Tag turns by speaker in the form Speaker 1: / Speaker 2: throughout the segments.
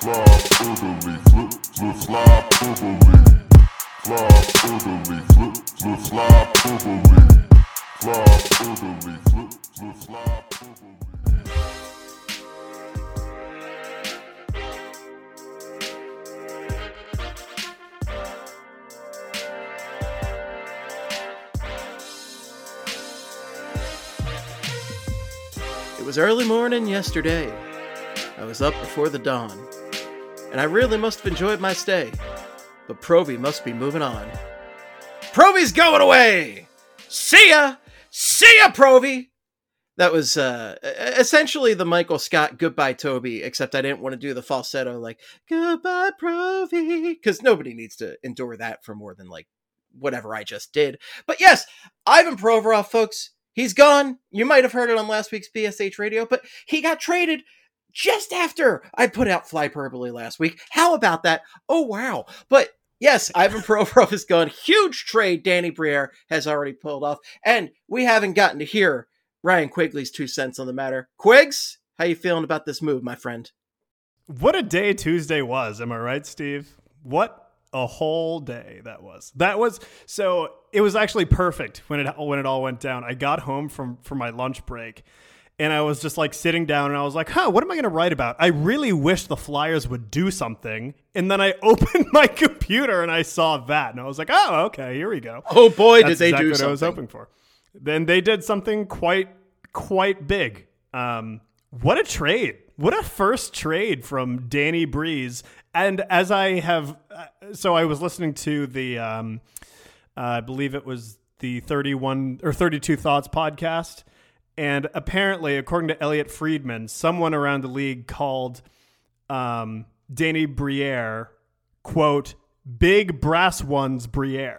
Speaker 1: It was early morning yesterday. I was up before the dawn, and I really must have enjoyed my stay. But Provy must be moving on. Provy's going away! See ya! See ya, Provy! That was essentially the Michael Scott Goodbye Toby, except I didn't want to do the falsetto like, Goodbye, Provy, because nobody needs to endure that for more than like whatever I just did. But yes, Ivan Provorov, folks, he's gone. You might have heard it on last week's BSH radio, but he got traded just after I put out Flyperbole last week. How about that? Oh, wow. But yes, Ivan Provorov is gone. Huge trade Danny Briere has already pulled off. And we haven't gotten to hear Ryan Quigley's 2 cents on the matter. Quigs, how you feeling about this move, my friend?
Speaker 2: What a day Tuesday was. Am I right, Steve? What a whole day that was. So it was actually perfect when it all went down. I got home from my lunch break and I was just like sitting down and I was like, what am I going to write about? I really wish the Flyers would do something. And then I opened my computer and I saw that and I was like, oh, okay, here we go.
Speaker 1: Oh boy,
Speaker 2: That's
Speaker 1: did they
Speaker 2: exactly
Speaker 1: do
Speaker 2: what
Speaker 1: something.
Speaker 2: I was hoping for. Then they did something quite big. What a trade. What a first trade from Danny Breeze. And as I have, so I was listening to the, I believe it was the 31 or 32 Thoughts podcast. And apparently, according to Elliot Friedman, someone around the league called Danny Briere, quote, Big Brass Ones Briere.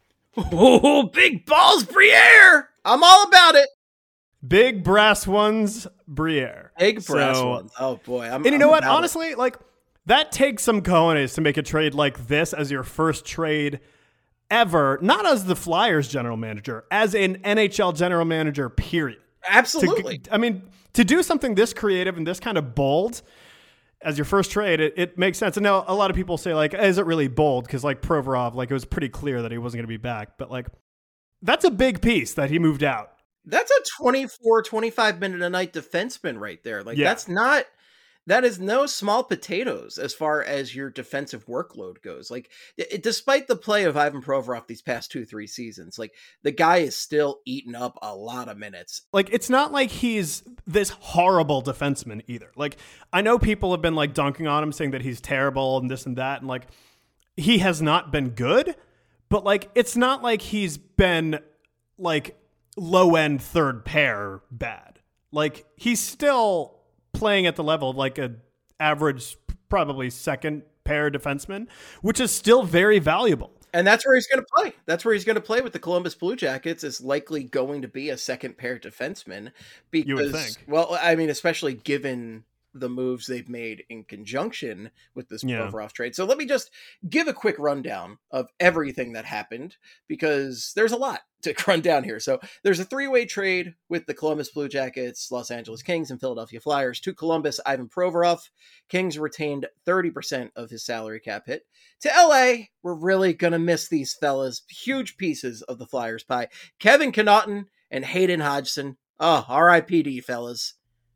Speaker 1: Oh, big balls, Briere! I'm all about it.
Speaker 2: Big Brass Ones Briere.
Speaker 1: Big brass ones. Oh boy.
Speaker 2: And you know what? Honestly, like that takes some cojones to make a trade like this as your first trade ever, not as the Flyers general manager, as an NHL general manager, period.
Speaker 1: Absolutely.
Speaker 2: To do something this creative and this kind of bold as your first trade, it makes sense. And now a lot of people say, like, is it really bold? Because, like, Provorov, like, it was pretty clear that he wasn't going to be back. But, like, that's a big piece that he moved out.
Speaker 1: That's a 24, 25 minute a night defenseman right there. Like,
Speaker 2: Yeah.
Speaker 1: that is no small potatoes as far as your defensive workload goes. Like, despite the play of Ivan Provorov these past 2-3 seasons, like, the guy is still eating up a lot of minutes.
Speaker 2: Like, it's not like he's this horrible defenseman either. Like, I know people have been, like, dunking on him, saying that he's terrible and this and that. And, like, he has not been good. But, like, it's not like he's been, like, low-end third pair bad. Like, he's still playing at the level of like a average, probably second pair defenseman, which is still very valuable.
Speaker 1: And that's where he's going to play. That's where he's going to play with the Columbus Blue Jackets, is likely going to be a second pair defenseman. Because,
Speaker 2: you would think.
Speaker 1: Well, I mean, especially given the moves they've made in conjunction with this Provorov trade. So let me just give a quick rundown of everything that happened, because there's a lot to run down here. So there's a 3-way trade with the Columbus Blue Jackets, Los Angeles Kings, and Philadelphia Flyers to Columbus, Ivan Provorov. Kings retained 30% of his salary cap hit. To LA, we're really going to miss these fellas. Huge pieces of the Flyers pie. Kevin Connauton and Hayden Hodgson. Oh, R.I.P.D., fellas.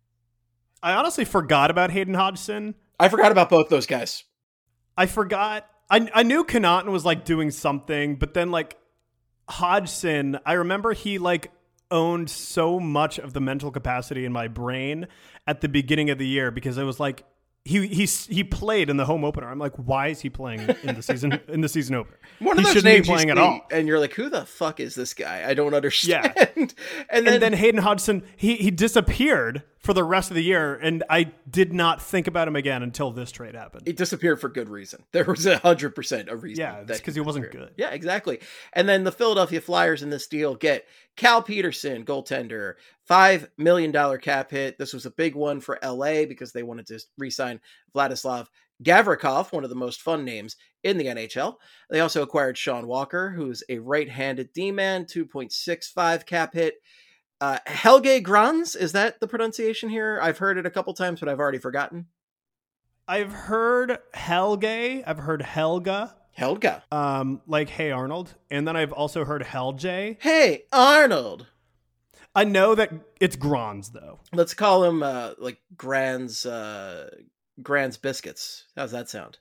Speaker 2: I honestly forgot about Hayden Hodgson.
Speaker 1: I forgot about both those guys.
Speaker 2: I forgot. I knew Connauton was like doing something, but then like Hodgson, I remember he like owned so much of the mental capacity in my brain at the beginning of the year, because it was like he played in the home opener. I'm like, why is he playing in the season opener?
Speaker 1: One of those
Speaker 2: shouldn't
Speaker 1: names
Speaker 2: be playing at all.
Speaker 1: And you're like, who the fuck is this guy? I don't understand.
Speaker 2: Yeah. and then Hayden Hodgson, he disappeared for the rest of the year, and I did not think about him again until this trade happened.
Speaker 1: He disappeared for good reason. There was 100% a reason.
Speaker 2: Yeah, that's because he wasn't good.
Speaker 1: Yeah, exactly. And then the Philadelphia Flyers in this deal get Cal Peterson, goaltender, $5 million cap hit. This was a big one for LA because they wanted to re-sign Vladislav Gavrikov, one of the most fun names in the NHL. They also acquired Sean Walker, who's a right-handed D-man, 2.65 cap hit. Helge Grans, is that the pronunciation here? I've heard it a couple times, but I've already forgotten.
Speaker 2: I've heard Helge. I've heard Helga.
Speaker 1: Helga.
Speaker 2: Like Hey Arnold. And then I've also heard Helge.
Speaker 1: Hey, Arnold.
Speaker 2: I know that it's Grans, though.
Speaker 1: Let's call him like Grand's Biscuits. How's that sound?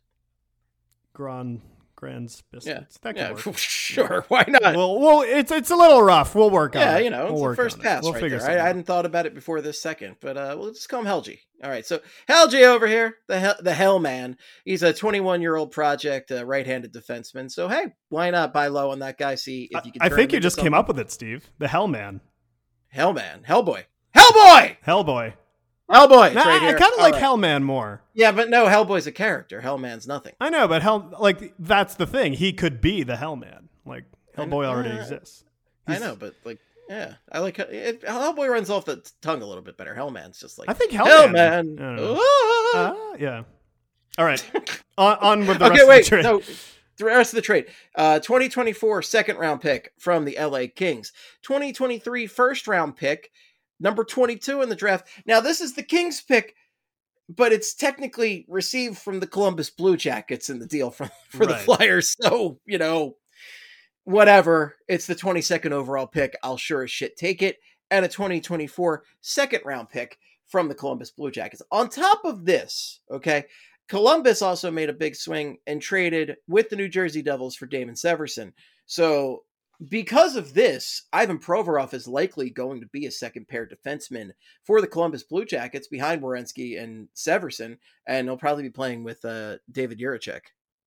Speaker 2: Grand's Biscuits.
Speaker 1: Yeah,
Speaker 2: That could work.
Speaker 1: Sure. Why not?
Speaker 2: Well, it's a little rough. We'll work on it.
Speaker 1: Yeah, you know,
Speaker 2: we'll
Speaker 1: it's the first pass
Speaker 2: we'll
Speaker 1: right
Speaker 2: figure
Speaker 1: there. I
Speaker 2: out.
Speaker 1: hadn't thought about it before this second, but we'll just call him Helgi. All right, so Helgi over here, the Hell Man. He's a 21-year-old project right-handed defenseman. So hey, why not buy low on that guy? See if you can.
Speaker 2: I
Speaker 1: turn
Speaker 2: think
Speaker 1: him
Speaker 2: you
Speaker 1: into
Speaker 2: just came up with it, Steve. The Hell Man.
Speaker 1: Hellman, Hellboy, Hellboy,
Speaker 2: Hellboy.
Speaker 1: Hellboy. It's
Speaker 2: Nah,
Speaker 1: right
Speaker 2: I
Speaker 1: here.
Speaker 2: kind of
Speaker 1: All
Speaker 2: like
Speaker 1: right.
Speaker 2: Hellman more.
Speaker 1: Yeah, but no, Hellboy's a character. Hellman's nothing.
Speaker 2: I know, but that's the thing. He could be the Hellman. Like Hellboy already exists.
Speaker 1: I know, but like, yeah, I like Hellboy runs off the tongue a little bit better. Hellman's just like
Speaker 2: I think Hellman.
Speaker 1: Hellman.
Speaker 2: Yeah. All right. on with the rest
Speaker 1: Okay, wait.
Speaker 2: of the trade.
Speaker 1: No, the rest of the trade. 2024 second round pick from the LA Kings. 2023 first round pick, number 22 in the draft. Now, this is the Kings pick, but it's technically received from the Columbus Blue Jackets in the deal for the
Speaker 2: Right.
Speaker 1: Flyers. So, you know, whatever. It's the 22nd overall pick. I'll sure as shit take it. And a 2024 second round pick from the Columbus Blue Jackets. On top of this, okay, Columbus also made a big swing and traded with the New Jersey Devils for Damon Severson. So because of this, Ivan Provorov is likely going to be a second pair defenseman for the Columbus Blue Jackets behind Werenski and Severson, and he'll probably be playing with David Jiricek.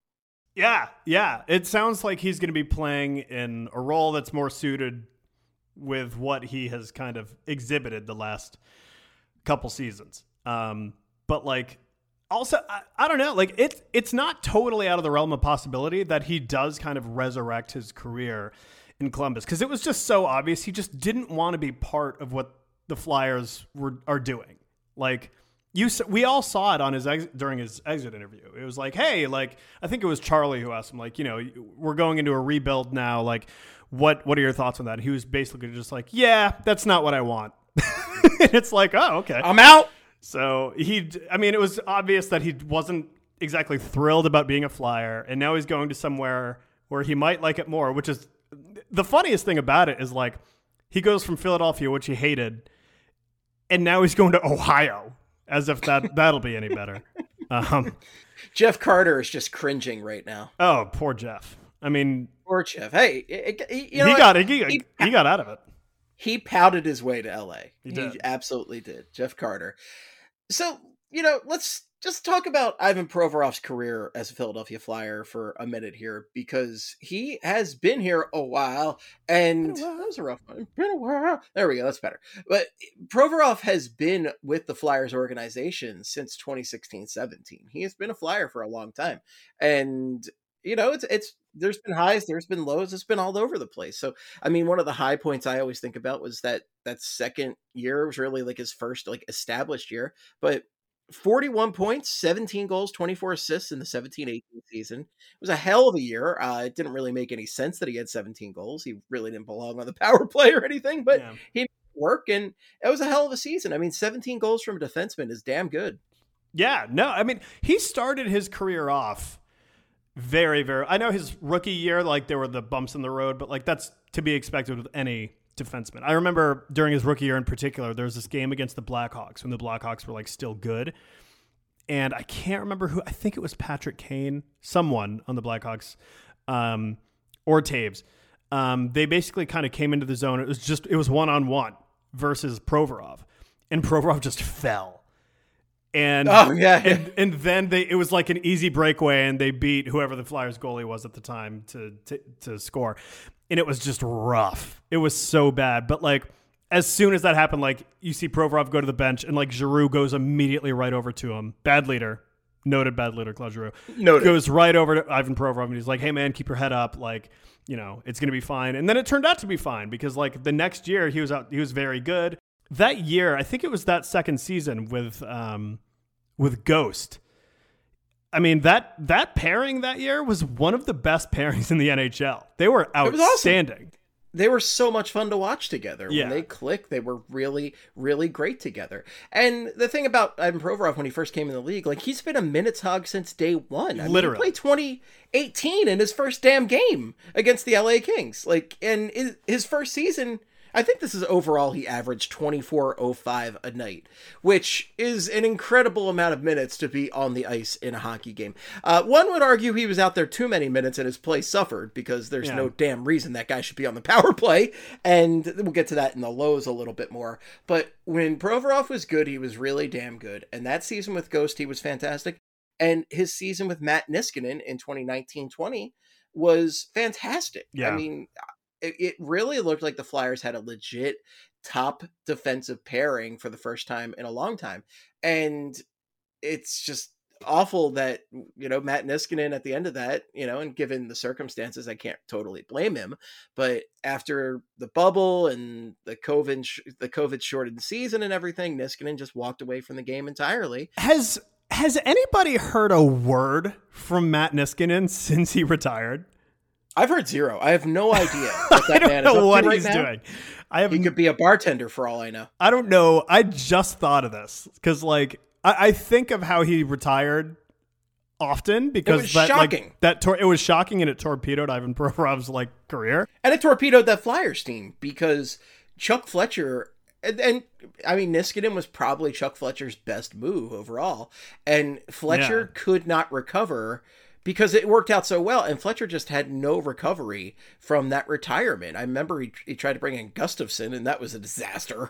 Speaker 2: Yeah. It sounds like he's going to be playing in a role that's more suited with what he has kind of exhibited the last couple seasons. But like, also, I don't know, like it's not totally out of the realm of possibility that he does kind of resurrect his career in Columbus, because it was just so obvious he just didn't want to be part of what the Flyers are doing. Like we all saw it on during his exit interview. It was like, hey, like I think it was Charlie who asked him, like, you know, we're going into a rebuild now. Like, what are your thoughts on that? And he was basically just like, yeah, that's not what I want. And it's like, oh, okay,
Speaker 1: I'm out.
Speaker 2: So it was obvious that he wasn't exactly thrilled about being a Flyer, and now he's going to somewhere where he might like it more, which is the funniest thing about it is like he goes from Philadelphia, which he hated, and now he's going to Ohio as if that'll be any better.
Speaker 1: Jeff Carter is just cringing right now.
Speaker 2: Oh, poor Jeff. I mean,
Speaker 1: Poor Jeff. Hey,
Speaker 2: he got out of it.
Speaker 1: He pouted his way to LA.
Speaker 2: He did.
Speaker 1: Absolutely did. Jeff Carter. So, you know, let's just talk about Ivan Provorov's career as a Philadelphia Flyer for a minute here, because he has been here a while, and that was a rough one. Been a while. There we go. That's better. But Provorov has been with the Flyers organization since 2016-17. He has been a Flyer for a long time. And you know, it's there's been highs, there's been lows, it's been all over the place. So, I mean, one of the high points I always think about was that second year was really like his first like established year, but 41 points, 17 goals, 24 assists in the 17-18 season. It was a hell of a year. It didn't really make any sense that he had 17 goals. He really didn't belong on the power play or anything, but he made it work, and it was a hell of a season. I mean, 17 goals from a defenseman is damn good.
Speaker 2: Yeah, no, I mean, he started his career off very, very. I know his rookie year, like there were the bumps in the road, but like that's to be expected with any defenseman. I remember during his rookie year in particular, there was this game against the Blackhawks when the Blackhawks were like still good. And I can't remember who, I think it was Patrick Kane, someone on the Blackhawks, or Taves. They basically kind of came into the zone. It was one-on-one versus Provorov, and Provorov just fell. And and then it was like an easy breakaway, and they beat whoever the Flyers goalie was at the time to score. And it was just rough. It was so bad. But like as soon as that happened, like you see Provorov go to the bench, and like Giroux goes immediately right over to him. Bad leader, noted bad leader, Claude Giroux. Noted. Goes right over to Ivan Provorov, and he's like, "Hey man, keep your head up. Like, you know, it's gonna be fine." And then it turned out to be fine, because like the next year he was very good. That year, I think it was that second season with Ghost. I mean, that pairing that year was one of the best pairings in the NHL. They were outstanding.
Speaker 1: They were so much fun to watch together.
Speaker 2: Yeah.
Speaker 1: When they clicked, they were really, really great together. And the thing about Ivan Provorov when he first came in the league, like, he's been a minutes hog since day one.
Speaker 2: Literally.
Speaker 1: He played 2018 in his first damn game against the LA Kings. Like, and his first season, I think this is overall, he averaged 24.05 a night, which is an incredible amount of minutes to be on the ice in a hockey game. One would argue he was out there too many minutes and his play suffered, because there's no damn reason that guy should be on the power play. And we'll get to that in the lows a little bit more. But when Provorov was good, he was really damn good. And that season with Ghost, he was fantastic. And his season with Matt Niskanen in 2019-20 was fantastic.
Speaker 2: Yeah.
Speaker 1: I mean, it really looked like the Flyers had a legit top defensive pairing for the first time in a long time. And it's just awful that, Matt Niskanen at the end of that, and given the circumstances, I can't totally blame him. But after the bubble and the COVID shortened season and everything, Niskanen just walked away from the game entirely.
Speaker 2: Has anybody heard a word from Matt Niskanen since he retired?
Speaker 1: I've heard zero. I have no idea what that man is up to
Speaker 2: what
Speaker 1: right
Speaker 2: he's
Speaker 1: now.
Speaker 2: doing.
Speaker 1: He could be a bartender for all I know.
Speaker 2: I don't know. I just thought of this because, like, I think of how he retired often because
Speaker 1: it was shocking.
Speaker 2: It was shocking, and it torpedoed Ivan Provorov's career,
Speaker 1: and it torpedoed that Flyers team because Chuck Fletcher. And I mean, Niskanen was probably Chuck Fletcher's best move overall, and Fletcher could not recover because it worked out so well, and Fletcher just had no recovery from that retirement. I remember he tried to bring in Gustafsson, and that was a disaster.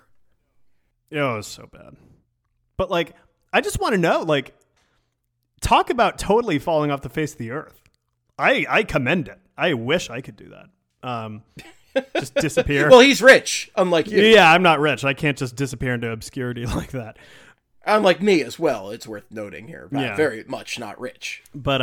Speaker 2: It was so bad. But, I just want to know, talk about totally falling off the face of the earth. I commend it. I wish I could do that. Just disappear.
Speaker 1: Well, he's rich, unlike you.
Speaker 2: Yeah, I'm not rich. I can't just disappear into obscurity like that.
Speaker 1: Unlike me as well, it's worth noting here. I'm very much not rich.
Speaker 2: But,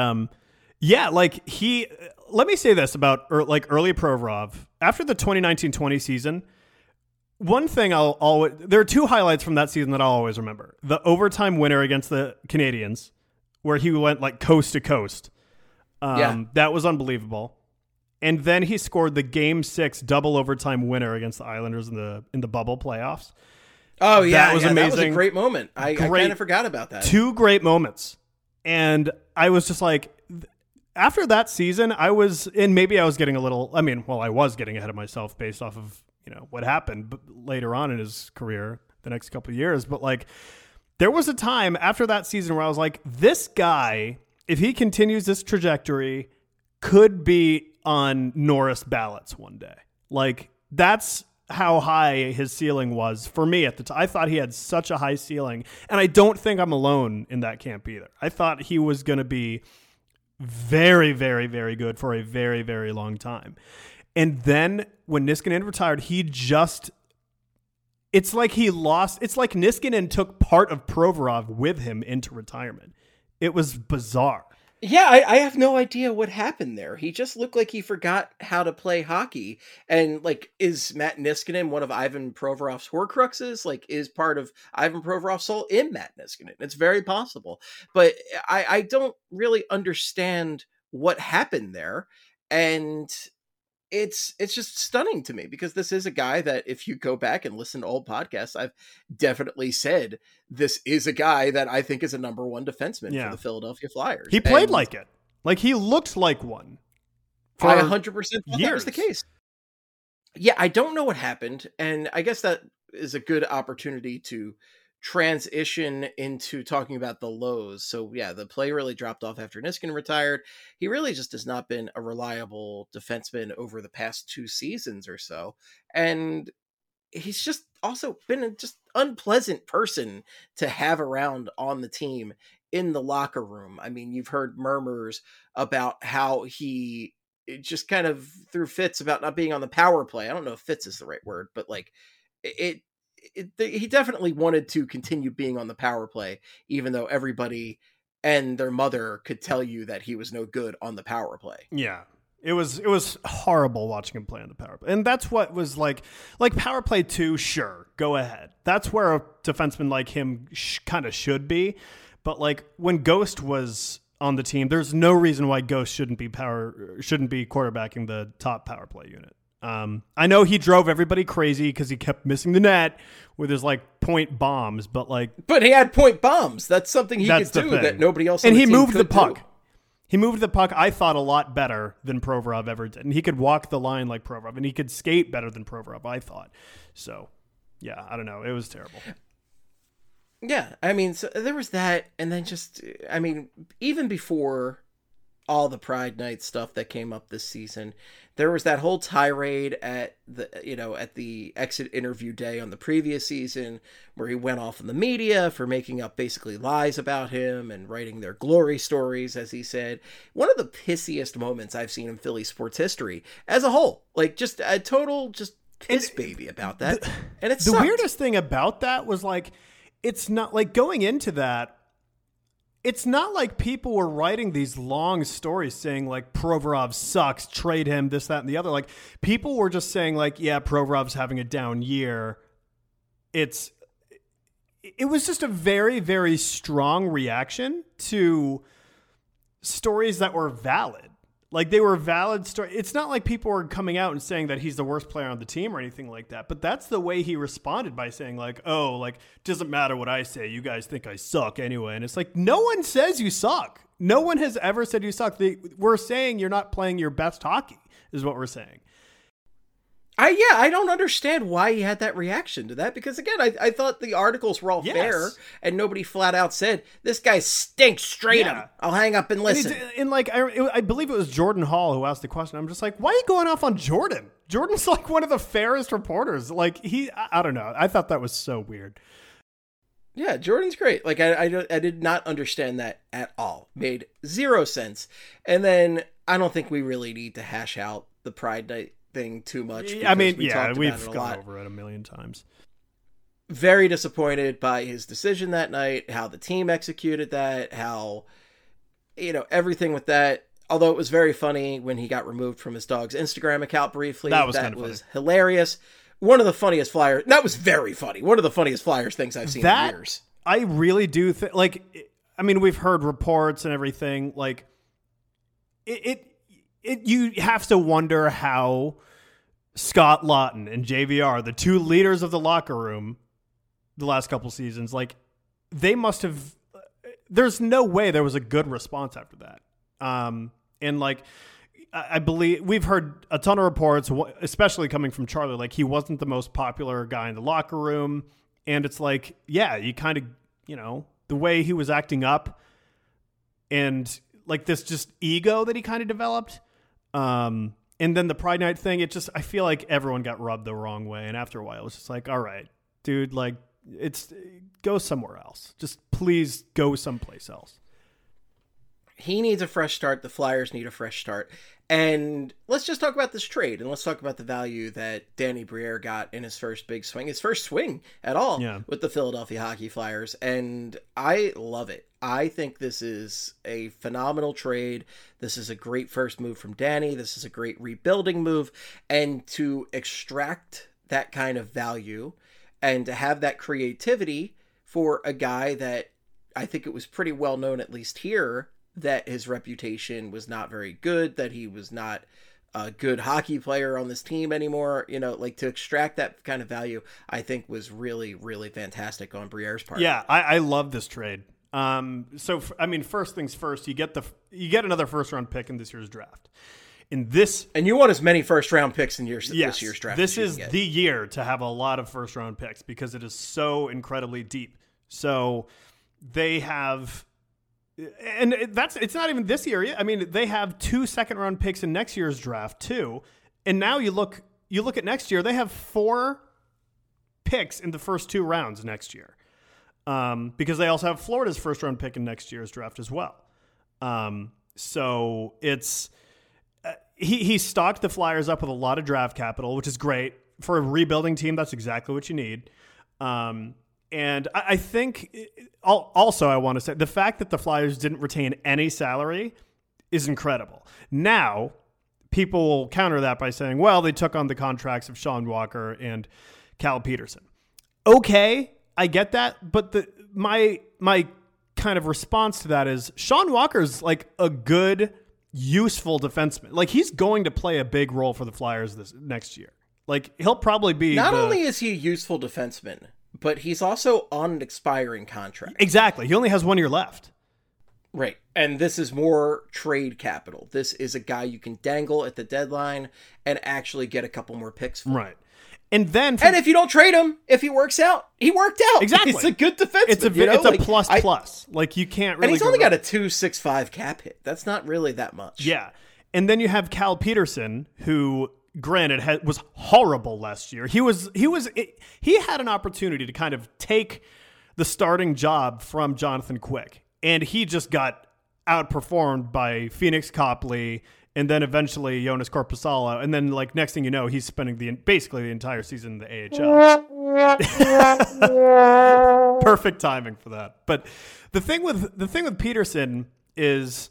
Speaker 2: let me say this about early Provorov. After the 2019-20 season, one thing there are two highlights from that season that I'll always remember. The overtime winner against the Canadiens, where he went coast to coast. That was unbelievable. And then he scored the Game 6 double overtime winner against the Islanders in the bubble playoffs.
Speaker 1: Oh, yeah.
Speaker 2: That was amazing.
Speaker 1: That was a great moment. I kind of forgot about that.
Speaker 2: Two great moments. And I was just after that season, I was getting a little, I was getting ahead of myself based off of, what happened later on in his career, the next couple of years. But there was a time after that season where I was like, this guy, if he continues this trajectory, could be on Norris ballots one day. That's how high his ceiling was for me at the time. I thought he had such a high ceiling, and I don't think I'm alone in that camp either. I thought he was going to be very, very, very good for a very, very long time. And then when Niskanen retired, it's like Niskanen took part of Provorov with him into retirement. It was bizarre.
Speaker 1: Yeah, I have no idea what happened there. He just looked like he forgot how to play hockey. And is Matt Niskanen one of Ivan Provorov's Horcruxes? Is part of Ivan Provorov's soul in Matt Niskanen? It's very possible. But I don't really understand what happened there. And it's just stunning to me because this is a guy that if you go back and listen to old podcasts, I've definitely said this is a guy that I think is a number one defenseman for the Philadelphia Flyers.
Speaker 2: He played like it. He looked like one.
Speaker 1: I 100% thought that was the case. Yeah, I don't know what happened. And I guess that is a good opportunity to transition into talking about the lows. So yeah, the play really dropped off after Niskanen retired. He really just has not been a reliable defenseman over the past 2 seasons or so. And he's just also been a just unpleasant person to have around on the team in the locker room. I mean, you've heard murmurs about how he just kind of threw fits about not being on the power play. I don't know if fits is the right word, but he definitely wanted to continue being on the power play, even though everybody and their mother could tell you that he was no good on the power play.
Speaker 2: Yeah. It was horrible watching him play on the power play. And that's what was like power play 2, sure, go ahead. That's where a defenseman like him kind of should be. But when Ghost was on the team, there's no reason why Ghost shouldn't be quarterbacking the top power play unit. I know he drove everybody crazy because he kept missing the net with his like point bombs, but
Speaker 1: he had point bombs. That's something he could do that nobody else.
Speaker 2: And
Speaker 1: on the
Speaker 2: he
Speaker 1: team
Speaker 2: moved
Speaker 1: could
Speaker 2: the puck.
Speaker 1: do.
Speaker 2: He moved the puck, I thought, a lot better than Provorov ever did. And he could walk the line like Provorov, and he could skate better than Provorov, I thought. So, yeah, I don't know. It was terrible.
Speaker 1: Yeah, I mean, so there was that, and then even before all the Pride Night stuff that came up this season, there was that whole tirade at the exit interview day on the previous season where he went off in the media for making up basically lies about him and writing their glory stories, as he said. One of the pissiest moments I've seen in Philly sports history as a whole. Like, just a total just piss baby about that. And it's
Speaker 2: the weirdest thing about that was like, it's not like going into that. It's not like people were writing these long stories saying like Provorov sucks, trade him, this, that, and the other. Like people were just saying like, yeah, Provorov's having a down year. It was just a very, very strong reaction to stories that were valid. Like they were valid stories. It's not like people were coming out and saying that he's the worst player on the team or anything like that. But that's the way he responded by saying like, oh, like, doesn't matter what I say. You guys think I suck anyway. And it's like, no one says you suck. No one has ever said you suck. We're saying you're not playing your best hockey is what we're saying.
Speaker 1: I don't understand why he had that reaction to that, because again, I thought the articles were all fair and nobody flat out said this guy stinks, straight up. I'll hang up and listen.
Speaker 2: And I believe it was Jordan Hall who asked the question. I'm just like, why are you going off on Jordan? Jordan's like one of the fairest reporters. Like I don't know. I thought that was so weird.
Speaker 1: Yeah, Jordan's great. Like I did not understand that at all. Made zero sense. And then I don't think we really need to hash out the Pride Night thing too much.
Speaker 2: I mean, we've gone over it a million times.
Speaker 1: Very disappointed by his decision that night, how the team executed that, how, everything with that. Although it was very funny when he got removed from his dog's Instagram account briefly. That was hilarious. One of the funniest Flyers. That was very funny. One of the funniest Flyers things I've seen in years.
Speaker 2: I really do think, we've heard reports and everything. Like, you have to wonder how Scott Lawton and JVR, the two leaders of the locker room the last couple seasons, like they must have, there's no way there was a good response after that. And like, I believe we've heard a ton of reports, especially coming from Charlie, like he wasn't the most popular guy in the locker room. And it's like, yeah, you kind of, the way he was acting up and like this just ego that he kind of developed. And then the Pride Night thing, I feel like everyone got rubbed the wrong way. And after a while, it was just like, all right, dude, like go somewhere else. Just please go someplace else.
Speaker 1: He needs a fresh start. The Flyers need a fresh start. And let's just talk about this trade, and let's talk about the value that Danny Briere got in his first big swing, his first swing at all with the Philadelphia Hockey Flyers. And I love it. I think this is a phenomenal trade. This is a great first move from Danny. This is a great rebuilding move. And to extract that kind of value and to have that creativity for a guy that I think it was pretty well known, at least here, that his reputation was not very good, that he was not a good hockey player on this team anymore, to extract that kind of value, I think was really, really fantastic on Briere's part.
Speaker 2: Yeah, I love this trade. First things first, you get another first round pick in this year's draft.
Speaker 1: And you want as many first round picks in this year's draft.
Speaker 2: This is the year to have a lot of first round picks because it is so incredibly deep. So they have, and it's not even this year. I mean, they have 2 second round picks in next year's draft too. And now you look at next year, they have 4 picks in the first 2 rounds next year. Because they also have Florida's first round pick in next year's draft as well. So it's, he stocked the Flyers up with a lot of draft capital, which is great for a rebuilding team. That's exactly what you need. And I think also I want to say the fact that the Flyers didn't retain any salary is incredible. Now people will counter that by saying, well, they took on the contracts of Sean Walker and Cal Peterson. Okay. I get that, but my kind of response to that is Sean Walker's like a good useful defenseman. Like, he's going to play a big role for the Flyers this next year. Like, he'll probably be
Speaker 1: Not only is he a useful defenseman, but he's also on an expiring contract.
Speaker 2: Exactly. He only has 1 year left.
Speaker 1: Right. And this is more trade capital. This is a guy you can dangle at the deadline and actually get a couple more picks for.
Speaker 2: Right. And then...
Speaker 1: and if you don't trade him, if he works out, he worked out.
Speaker 2: Exactly.
Speaker 1: It's a good defenseman.
Speaker 2: It's a plus. Like, you can't really...
Speaker 1: And he's only got a 2.65 cap hit. That's not really that much.
Speaker 2: Yeah. And then you have Cal Peterson, who, granted, was horrible last year. He had an opportunity to kind of take the starting job from Jonathan Quick, and he just got outperformed by Phoenix Copley and then eventually Jonas Korpisalo. And then, like, next thing you know, he's spending basically the entire season in the AHL. Perfect timing for that. But the thing with Peterson is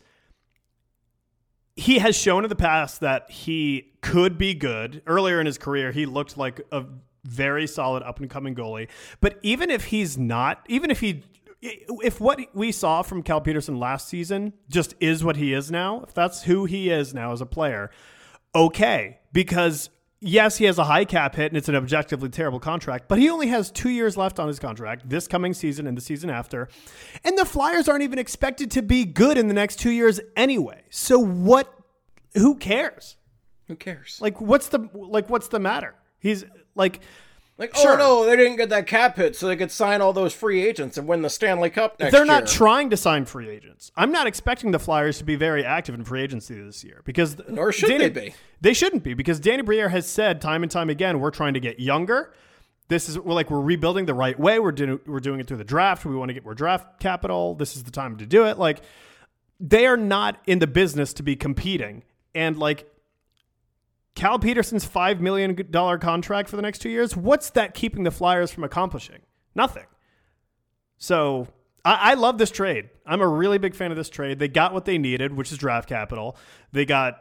Speaker 2: he has shown in the past that he could be good. Earlier in his career, he looked like a very solid up-and-coming goalie. But even if he's not, if what we saw from Cal Peterson last season just is what he is now, if that's who he is now as a player, okay. Because, yes, he has a high cap hit and it's an objectively terrible contract, but he only has 2 years left on his contract, this coming season and the season after. And the Flyers aren't even expected to be good in the next 2 years anyway. So who cares?
Speaker 1: Who cares?
Speaker 2: Like, what's the matter? He's like...
Speaker 1: sure. Oh no, they didn't get that cap hit, so they could sign all those free agents and win the Stanley Cup next year.
Speaker 2: They're not trying to sign free agents. I'm not expecting the Flyers to be very active in free agency this year because
Speaker 1: nor should they be.
Speaker 2: They shouldn't be, because Danny Briere has said time and time again, we're trying to get younger. We're rebuilding the right way. We're doing it through the draft. We want to get more draft capital. This is the time to do it. Like, they are not in the business to be competing. And like, Cal Peterson's $5 million contract for the next 2 years, what's that keeping the Flyers from accomplishing? Nothing. So I love this trade. I'm a really big fan of this trade. They got what they needed, which is draft capital. They got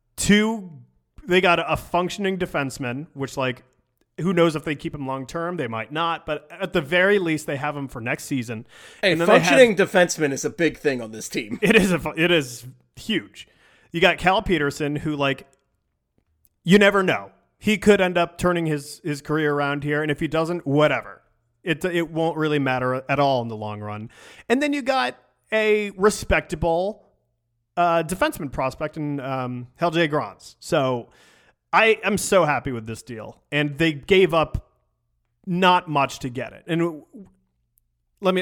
Speaker 2: a functioning defenseman, which, like, who knows if they keep him long term? They might not, but at the very least, they have him for next season.
Speaker 1: A functioning defenseman is a big thing on this team.
Speaker 2: It is huge. You got Cal Peterson, who, like, you never know. He could end up turning his career around here, and if he doesn't, whatever. It won't really matter at all in the long run. And then you got a respectable defenseman prospect in Helge Grans. So I am so happy with this deal, and they gave up not much to get it. And let me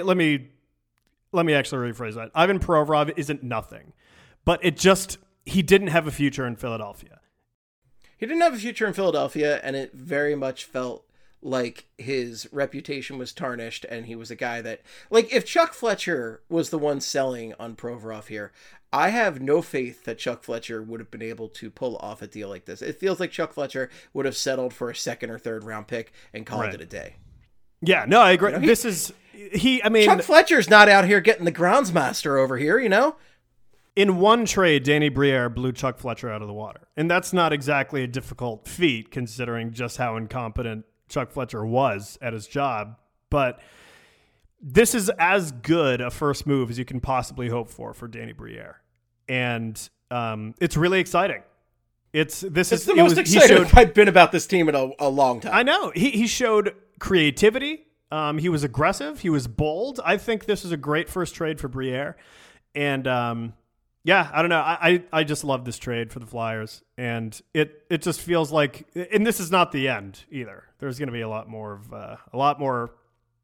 Speaker 2: actually rephrase that. Ivan Provorov isn't nothing, but he didn't have a future in Philadelphia.
Speaker 1: He didn't have a future in Philadelphia, and it very much felt like his reputation was tarnished, and he was a guy that, like, if Chuck Fletcher was the one selling on Provorov here, I have no faith that Chuck Fletcher would have been able to pull off a deal like this. It feels like Chuck Fletcher would have settled for a second or third round pick and called it a day.
Speaker 2: Yeah, no, I agree.
Speaker 1: Chuck Fletcher's not out here getting the groundsmaster over here, you know?
Speaker 2: In one trade, Danny Briere blew Chuck Fletcher out of the water. And that's not exactly a difficult feat, considering just how incompetent Chuck Fletcher was at his job. But this is as good a first move as you can possibly hope for Danny Briere. And it's really exciting. It's the
Speaker 1: most excited I've been about this team in a long time.
Speaker 2: I know. He showed creativity. He was aggressive. He was bold. I think this is a great first trade for Briere. And yeah, I don't know. I just love this trade for the Flyers, and it just feels like, and this is not the end either. There's going to be a lot more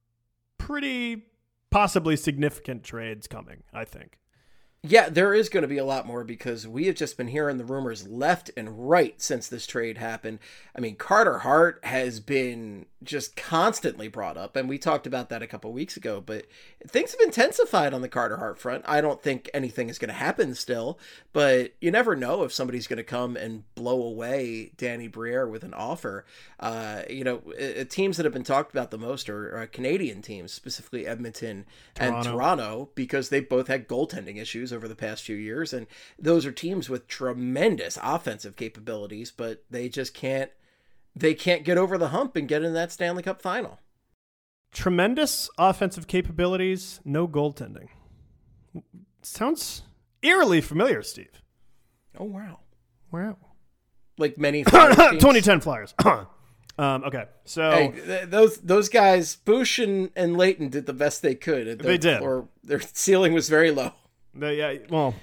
Speaker 2: pretty possibly significant trades coming, I think.
Speaker 1: Yeah, there is going to be a lot more, because we have just been hearing the rumors left and right since this trade happened. I mean, Carter Hart has been just constantly brought up, and we talked about that a couple weeks ago, but things have intensified on the Carter Hart front. I don't think anything is going to happen still, but you never know if somebody's going to come and blow away Danny Briere with an offer. Teams that have been talked about the most are Canadian teams, specifically Edmonton and Toronto, because they both had goaltending issues over the past few years, and those are teams with tremendous offensive capabilities, but they just can't get over the hump and get in that Stanley Cup final.
Speaker 2: Tremendous offensive capabilities, no goaltending. Sounds eerily familiar, Steve.
Speaker 1: Oh, wow.
Speaker 2: Wow.
Speaker 1: Like many Flyers teams.
Speaker 2: 2010 Flyers. Okay, so
Speaker 1: hey, those guys, Bush and Leighton, did the best they could.
Speaker 2: They did,
Speaker 1: or their ceiling was very low.
Speaker 2: The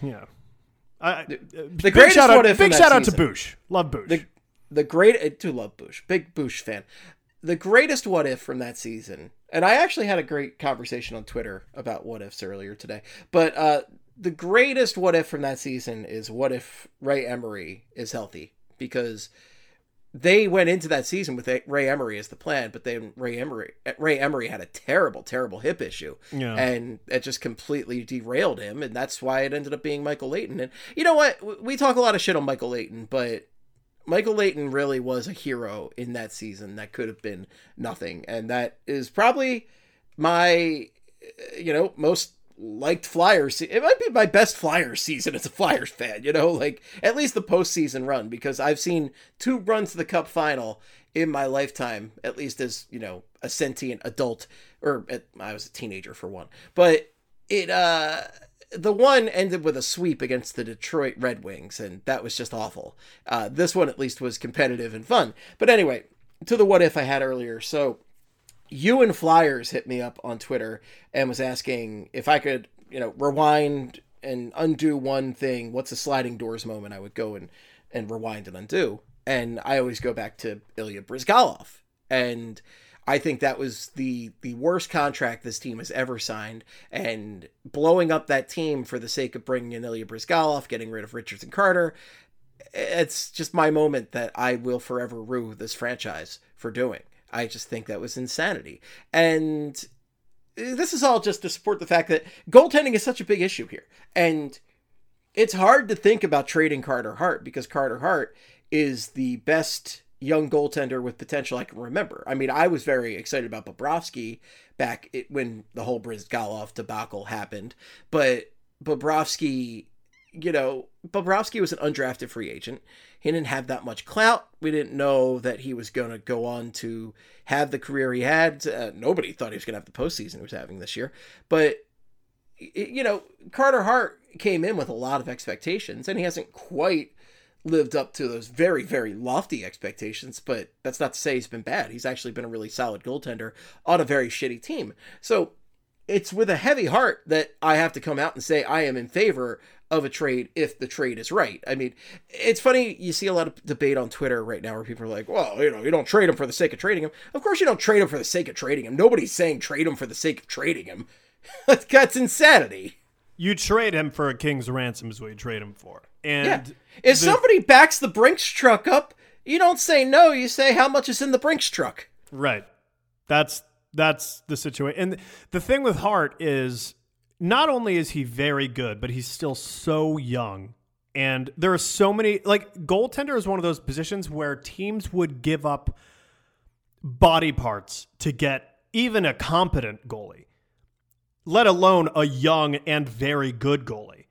Speaker 1: greatest what if.
Speaker 2: Big shout out to Bush. Love Bush.
Speaker 1: I do love Bush. Big Bush fan. The greatest what if from that season, and I actually had a great conversation on Twitter about what ifs earlier today. But the greatest what if from that season is what if Ray Emery is healthy, because they went into that season with Ray Emery as the plan, but then Ray Emery had a terrible hip issue, and it just completely derailed him, and that's why it ended up being Michael Leighton. And you know what? We talk a lot of shit on Michael Leighton, but Michael Leighton really was a hero in that season that could have been nothing, and that is probably my, most liked Flyers. It might be my best Flyers season as a Flyers fan, like at least the postseason run, because I've seen 2 runs to the Cup final in my lifetime, at least as, a sentient adult, I was a teenager for one, but the one ended with a sweep against the Detroit Red Wings, and that was just awful. This one at least was competitive and fun. But anyway, to the what if I had earlier. So you and Flyers hit me up on Twitter and was asking if I could, rewind and undo one thing. What's a sliding doors moment I would go and rewind and undo? And I always go back to Ilya Bryzgalov. And I think that was the worst contract this team has ever signed, and blowing up that team for the sake of bringing in Ilya Bryzgalov, getting rid of Richards and Carter. It's just my moment that I will forever rue this franchise for doing. I just think that was insanity. And this is all just to support the fact that goaltending is such a big issue here. And it's hard to think about trading Carter Hart, because Carter Hart is the best young goaltender with potential I can remember. I mean, I was very excited about Bobrovsky back when the whole Bryzgalov debacle happened. But Bobrovsky was an undrafted free agent. He didn't have that much clout. We didn't know that he was going to go on to have the career he had. Nobody thought he was going to have the postseason he was having this year. But, Carter Hart came in with a lot of expectations, and he hasn't quite lived up to those very, very lofty expectations. But that's not to say he's been bad. He's actually been a really solid goaltender on a very shitty team. So it's with a heavy heart that I have to come out and say I am in favor of a trade if the trade is right. I mean, it's funny, you see a lot of debate on Twitter right now where people are like, well, you don't trade him for the sake of trading him. Of course you don't trade him for the sake of trading him. Nobody's saying trade him for the sake of trading him. That's insanity.
Speaker 2: You trade him for a king's ransom is what you trade him for. And
Speaker 1: if somebody backs the Brinks truck up, you don't say no, you say how much is in the Brinks truck.
Speaker 2: Right. That's the situation. And the thing with Hart is, not only is he very good, but he's still so young. And there are so many, goaltender is one of those positions where teams would give up body parts to get even a competent goalie, let alone a young and very good goalie.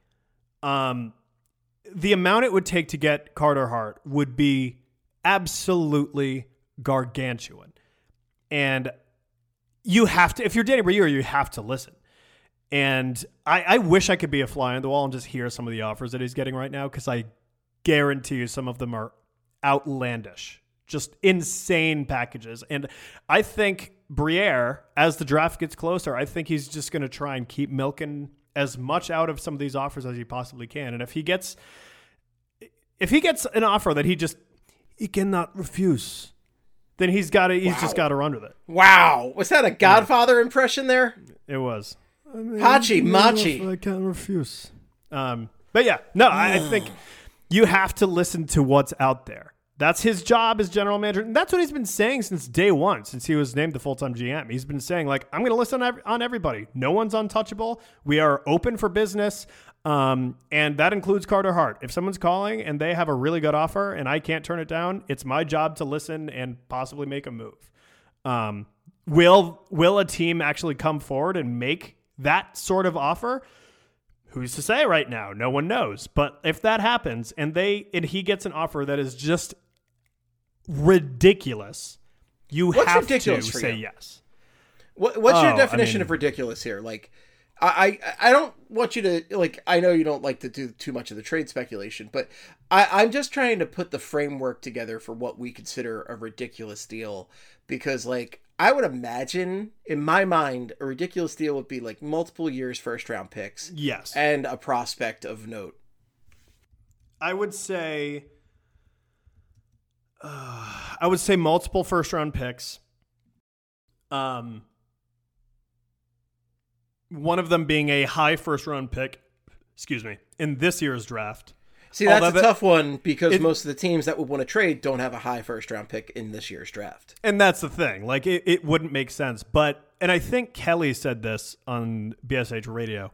Speaker 2: The amount it would take to get Carter Hart would be absolutely gargantuan. And you have to, if you're Danny Briere, you have to listen. And I wish I could be a fly on the wall and just hear some of the offers that he's getting right now, because I guarantee you some of them are outlandish, just insane packages. And I think Briere, as the draft gets closer, I think he's just going to try and keep milking as much out of some of these offers as he possibly can. And if he gets an offer that he cannot refuse, then he's just got to run with it.
Speaker 1: Wow. Was that a Godfather impression there?
Speaker 2: It was.
Speaker 1: Hachi Machi.
Speaker 2: I can't refuse. But yeah, no, I think you have to listen to what's out there. That's his job as general manager. And that's what he's been saying since day one, since he was named the full-time GM. He's been saying, I'm going to listen on everybody. No one's untouchable. We are open for business. And that includes Carter Hart. If someone's calling and they have a really good offer and I can't turn it down, it's my job to listen and possibly make a move. Will a team actually come forward and make that sort of offer? Who's to say right now? No one knows. But if that happens and he gets an offer that is just ridiculous, you have to say yes.
Speaker 1: What's your definition of ridiculous here? I don't want you to, like, I know you don't like to do too much of the trade speculation, but I'm just trying to put the framework together for what we consider a ridiculous deal, because, like, I would imagine, in my mind, a ridiculous deal would be like multiple years first round picks.
Speaker 2: Yes.
Speaker 1: And a prospect of note.
Speaker 2: I would say multiple first round picks. One of them being a high first round pick, in this year's draft.
Speaker 1: See, that's a tough one, because most of the teams that would want to trade don't have a high first round pick in this year's draft.
Speaker 2: And that's the thing. Like, it wouldn't make sense. And I think Kelly said this on BSH radio,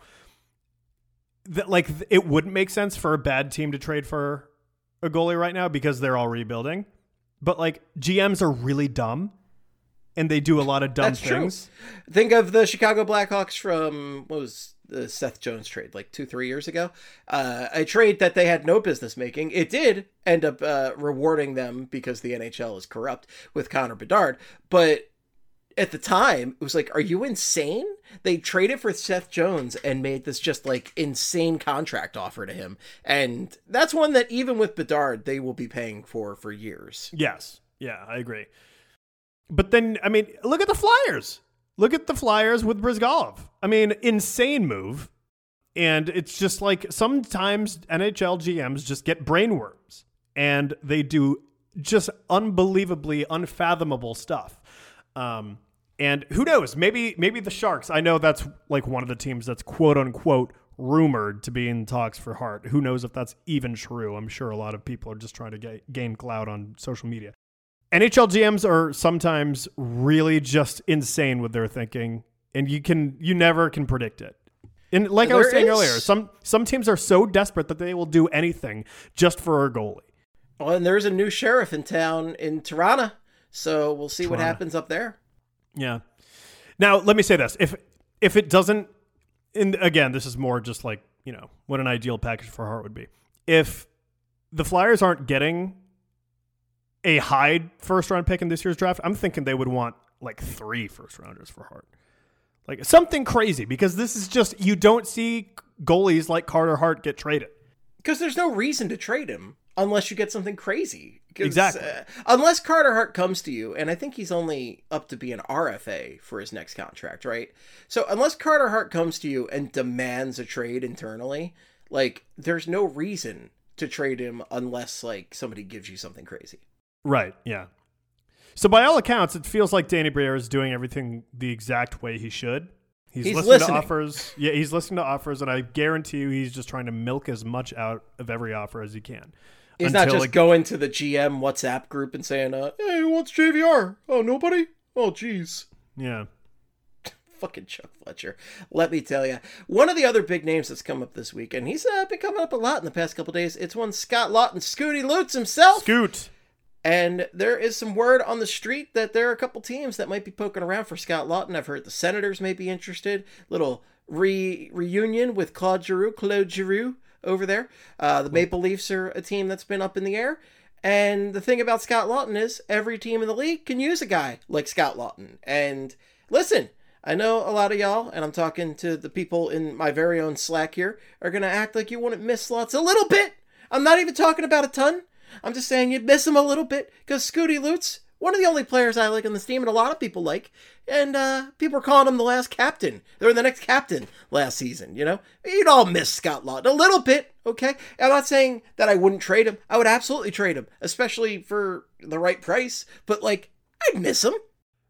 Speaker 2: that, like, it wouldn't make sense for a bad team to trade for a goalie right now because they're all rebuilding. But, like, GMs are really dumb, and they do a lot of dumb things.
Speaker 1: True. Think of the Chicago Blackhawks from, what was the Seth Jones trade, like 2-3 years ago? A trade that they had no business making. It did end up rewarding them, because the NHL is corrupt, with Connor Bedard. But at the time, it was like, are you insane? They traded for Seth Jones and made this just, like, insane contract offer to him. And that's one that, even with Bedard, they will be paying for years.
Speaker 2: Yes. Yeah, I agree. But then, I mean, look at the Flyers. Look at the Flyers with Brizgalov. I mean, insane move. And it's just like, sometimes NHL GMs just get brainworms, and they do just unbelievably unfathomable stuff. And who knows, maybe the Sharks, I know that's like one of the teams that's quote unquote rumored to be in talks for Hart. Who knows if that's even true? I'm sure a lot of people are just trying to gain clout on social media. NHL GMs are sometimes really just insane with their thinking, and you never can predict it. And like I was saying earlier, some teams are so desperate that they will do anything just for a goalie.
Speaker 1: Well, and there's a new sheriff in town in Toronto, so we'll see what happens up there.
Speaker 2: Yeah. Now, let me say this. If it doesn't, and again, this is more just like, you know, what an ideal package for Hart would be. If the Flyers aren't getting a high first-round pick in this year's draft, I'm thinking they would want like 3 first-rounders for Hart. Like something crazy, because this is just, you don't see goalies like Carter Hart get traded.
Speaker 1: Because there's no reason to trade him unless you get something crazy.
Speaker 2: Exactly.
Speaker 1: Unless Carter Hart comes to you, and I think he's only up to be an RFA for his next contract, right? So unless Carter Hart comes to you and demands a trade internally, like, there's no reason to trade him unless, like, somebody gives you something crazy.
Speaker 2: Right, yeah. So by all accounts, it feels like Danny Briere is doing everything the exact way he should. He's listening to offers. Yeah, he's listening to offers, and I guarantee you he's just trying to milk as much out of every offer as he can.
Speaker 1: He's not just going to the GM WhatsApp group and saying, hey, what's JVR? Oh, nobody? Oh, geez.
Speaker 2: Yeah.
Speaker 1: Fucking Chuck Fletcher. Let me tell you. One of the other big names that's come up this week, and he's been coming up a lot in the past couple days, it's one Scott Laughton, Scooty Lutz himself.
Speaker 2: Scoot.
Speaker 1: And there is some word on the street that there are a couple teams that might be poking around for Scott Laughton. I've heard the Senators may be interested. Little reunion with Claude Giroux over there. The Maple Leafs are a team that's been up in the air. And the thing about Scott Laughton is every team in the league can use a guy like Scott Laughton. And listen, I know a lot of y'all, and I'm talking to the people in my very own Slack here, are going to act like you wouldn't miss Lutz a little bit. I'm not even talking about a ton. I'm just saying you'd miss him a little bit, because Scooty Lutz, one of the only players I like on this team, and a lot of people like, and people are calling him the last captain. They're the next captain last season, you know? You'd all miss Scott Laughton a little bit, okay? I'm not saying that I wouldn't trade him. I would absolutely trade him, especially for the right price, but, like, I'd miss him.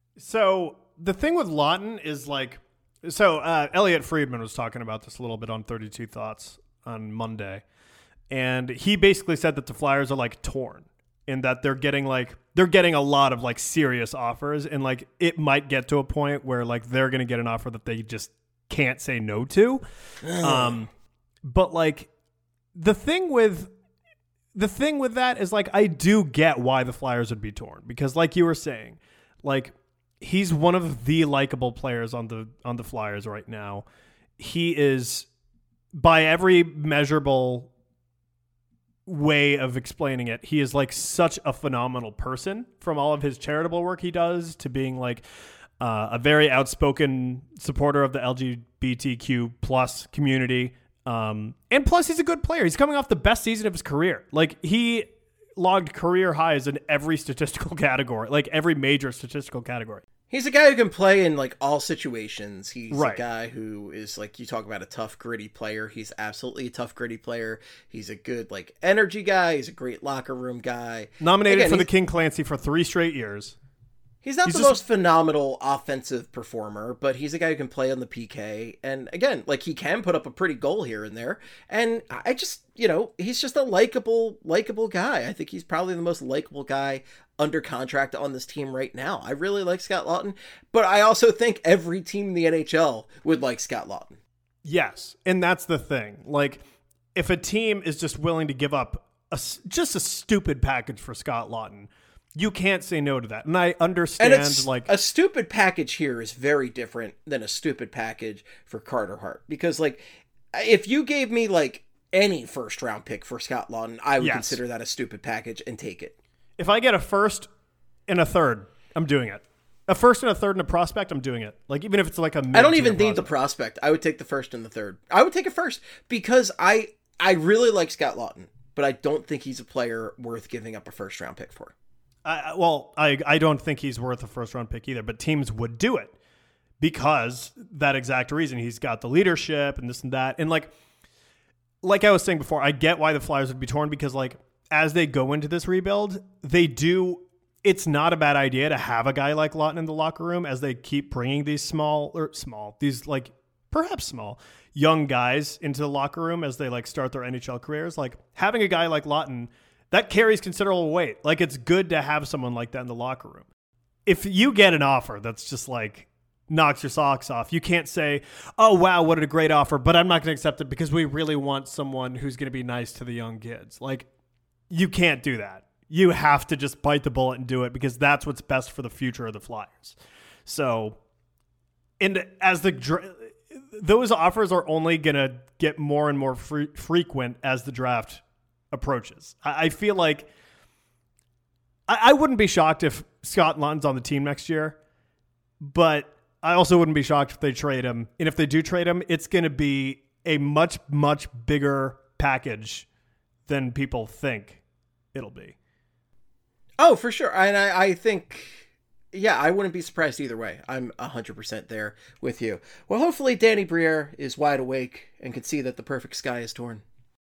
Speaker 2: So the thing with Laughton is, like, Elliot Friedman was talking about this a little bit on 32 Thoughts on Monday. And he basically said that the Flyers are like torn in that they're getting a lot of like serious offers, and like it might get to a point where like they're going to get an offer that they just can't say no to. But like the thing with that is, like, I do get why the Flyers would be torn, because like you were saying, like, he's one of the likable players on the Flyers right now. He is, by every measurable way of explaining it, he is like such a phenomenal person, from all of his charitable work he does to being like a very outspoken supporter of the LGBTQ plus community. And plus, he's a good player. He's coming off the best season of his career. Like, he logged career highs in every statistical category, like every major statistical category.
Speaker 1: He's a guy who can play in like all situations. He's
Speaker 2: Right.
Speaker 1: a guy who is like, you talk about a tough, gritty player. He's absolutely a tough, gritty player. He's a good like energy guy. He's a great locker room guy.
Speaker 2: Nominated
Speaker 1: Again,
Speaker 2: for the King Clancy for 3 straight years.
Speaker 1: He's not the most phenomenal offensive performer, but he's a guy who can play on the PK. And again, like he can put up a pretty goal here and there. And I just, he's just a likable guy. I think he's probably the most likable guy under contract on this team right now. I really like Scott Laughton, but I also think every team in the NHL would like Scott Laughton.
Speaker 2: Yes. And that's the thing. Like, if a team is just willing to give up just a stupid package for Scott Laughton, you can't say no to that. And I understand,
Speaker 1: and a stupid package here is very different than a stupid package for Carter Hart. Because, like, if you gave me, like, any first-round pick for Scott Laughton, I would consider that a stupid package and take it.
Speaker 2: If I get a first and a third, I'm doing it. A first and a third and a prospect, I'm doing it. Like, even if it's like a mid-tier
Speaker 1: I don't even need
Speaker 2: prospect.
Speaker 1: the prospect. I would take the first and the third. I would take it first because I really like Scott Laughton, but I don't think he's a player worth giving up a first-round pick for.
Speaker 2: I don't think he's worth a first-round pick either, but teams would do it because that exact reason. He's got the leadership and this and that. And like I was saying before, I get why the Flyers would be torn because, like, as they go into this rebuild, it's not a bad idea to have a guy like Laughton in the locker room as they keep bringing these perhaps small young guys into the locker room as they like start their NHL careers. Like, having a guy like Laughton, that carries considerable weight. Like, it's good to have someone like that in the locker room. If you get an offer that's just like knocks your socks off, you can't say, oh, wow, what a great offer, but I'm not going to accept it because we really want someone who's going to be nice to the young kids. Like, you can't do that. You have to just bite the bullet and do it because that's what's best for the future of the Flyers. So, and as those offers are only going to get more and more frequent as the draft approaches. I feel like I wouldn't be shocked if Scott Laughton's on the team next year, but I also wouldn't be shocked if they trade him. And if they do trade him, it's going to be a much, much bigger package than people think it'll be.
Speaker 1: Oh, for sure. And I think, I wouldn't be surprised either way. I'm 100% there with you. Well, hopefully Danny Briere is wide awake and can see that the perfect sky is torn.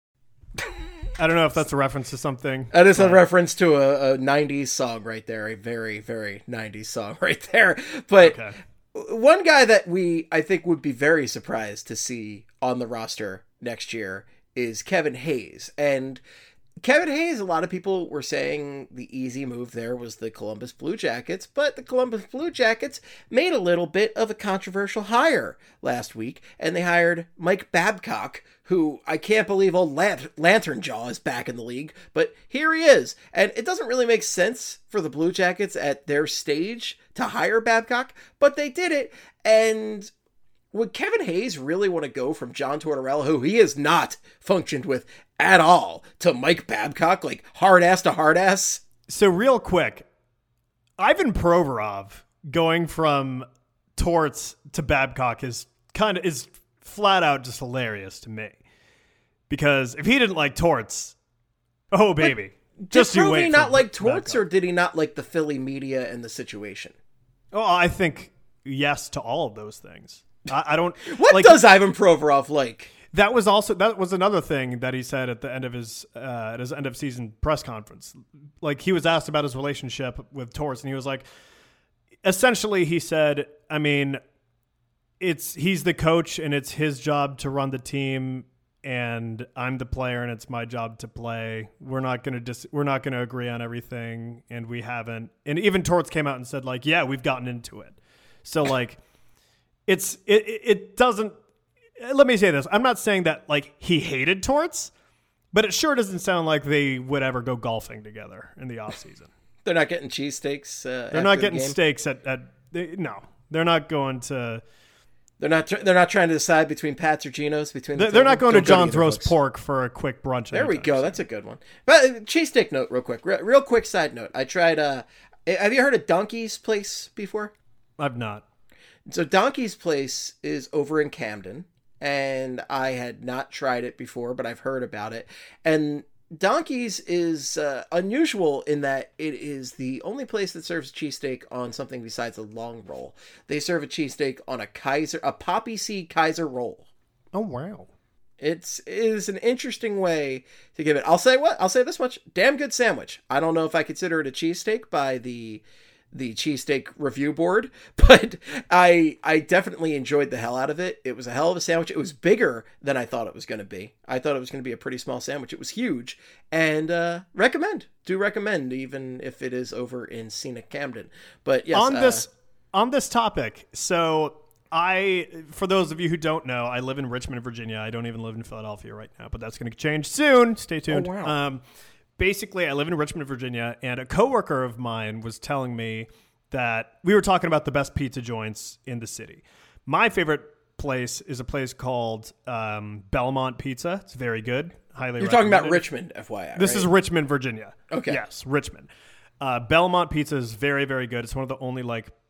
Speaker 2: I don't know if that's a reference to something.
Speaker 1: That is a reference to a 90s song right there. A very, very 90s song right there. But one guy that I think would be very surprised to see on the roster next year is Kevin Hayes. And Kevin Hayes, a lot of people were saying the easy move there was the Columbus Blue Jackets, but the Columbus Blue Jackets made a little bit of a controversial hire last week, and they hired Mike Babcock, who I can't believe old Lantern Jaw is back in the league, but here he is. And it doesn't really make sense for the Blue Jackets at their stage to hire Babcock, but they did it. And would Kevin Hayes really want to go from John Tortorella, who he has not functioned with at all, to Mike Babcock, like hard ass to hard ass?
Speaker 2: So real quick, Ivan Provorov going from Torts to Babcock is flat out just hilarious to me. Because if he didn't like Torts, oh baby,
Speaker 1: just you wait. Did he not like Torts, or did he not like the Philly media and the situation?
Speaker 2: Oh, I think yes to all of those things. I don't.
Speaker 1: What does Ivan Provorov like?
Speaker 2: That was another thing that he said at the end of his end of season press conference. Like, he was asked about his relationship with Torts, and he was like, essentially, he said, I mean, he's the coach, and it's his job to run the team, and I'm the player, and it's my job to play. We're not gonna agree on everything, and we haven't. And even Torts came out and said, like, yeah, we've gotten into it. So like, it doesn't. Let me say this. I'm not saying that like he hated Torts, but it sure doesn't sound like they would ever go golfing together in the offseason.
Speaker 1: They're not getting cheesesteaks.
Speaker 2: They're not getting steaks no. They're not going to.
Speaker 1: They're not trying to decide between Pat's or Geno's.
Speaker 2: They're not going to John's Roast Pork for a quick brunch.
Speaker 1: There we go. That's a good one. But cheesesteak note, real quick. Real quick side note. I tried. Have you heard of Donkey's Place before?
Speaker 2: I've not.
Speaker 1: So Donkey's Place is over in Camden, and I had not tried it before, but I've heard about it. And Donkey's is unusual in that it is the only place that serves cheesesteak on something besides a long roll. They serve a cheesesteak on a poppy seed Kaiser roll.
Speaker 2: Oh, wow.
Speaker 1: It is an interesting way to give it. I'll say this much. Damn good sandwich. I don't know if I consider it a cheesesteak by the cheesesteak review board, but I definitely enjoyed the hell out of it. It was a hell of a sandwich. It was bigger than I thought it was going to be. I thought it was going to be a pretty small sandwich. It was huge, and do recommend, even if it is over in scenic Camden. But yes,
Speaker 2: on this topic, so for those of you who don't know, I live in Richmond, Virginia. I don't even live in Philadelphia right now, but that's going to change soon. Stay tuned.
Speaker 1: Oh, wow.
Speaker 2: Basically, I live in Richmond, Virginia, and a coworker of mine was telling me that we were talking about the best pizza joints in the city. My favorite place is a place called Belmont Pizza. It's very good. Highly
Speaker 1: You're
Speaker 2: recommended.
Speaker 1: talking about Richmond, FYI.
Speaker 2: This
Speaker 1: right?
Speaker 2: is Richmond, Virginia.
Speaker 1: Okay.
Speaker 2: Yes, Richmond. Belmont Pizza is very, very good. It's one of the only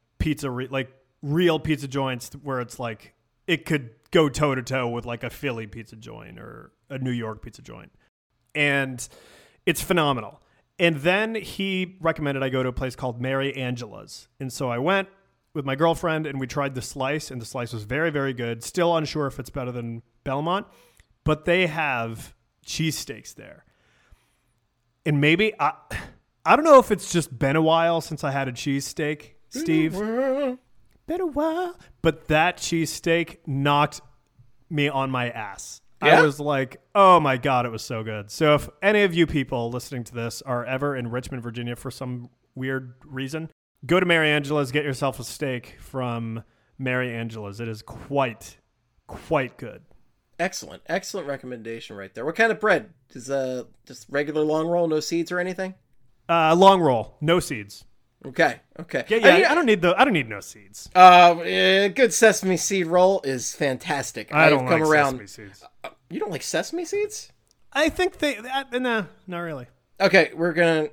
Speaker 2: real pizza joints where it's like it could go toe to toe with like a Philly pizza joint or a New York pizza joint. And it's phenomenal. And then he recommended I go to a place called Mary Angela's. And so I went with my girlfriend and we tried the slice, and the slice was very, very good. Still unsure if it's better than Belmont, but they have cheesesteaks there. And maybe, I don't know if it's just been a while since I had a cheesesteak, Steve. Been a while. But that cheesesteak knocked me on my ass.
Speaker 1: Yeah?
Speaker 2: I was like, oh my God, it was so good. So if any of you people listening to this are ever in Richmond, Virginia for some weird reason, go to Mary Angela's, get yourself a steak from Mary Angela's. It is quite good.
Speaker 1: Excellent recommendation right there. What kind of bread? Is just regular long roll, no seeds or anything?
Speaker 2: Long roll, no seeds.
Speaker 1: Okay.
Speaker 2: Yeah. I don't need no seeds.
Speaker 1: Good sesame seed roll is fantastic.
Speaker 2: I don't
Speaker 1: come
Speaker 2: like
Speaker 1: around.
Speaker 2: sesame seeds.
Speaker 1: You don't like sesame seeds?
Speaker 2: I think no, not really.
Speaker 1: Okay, we're gonna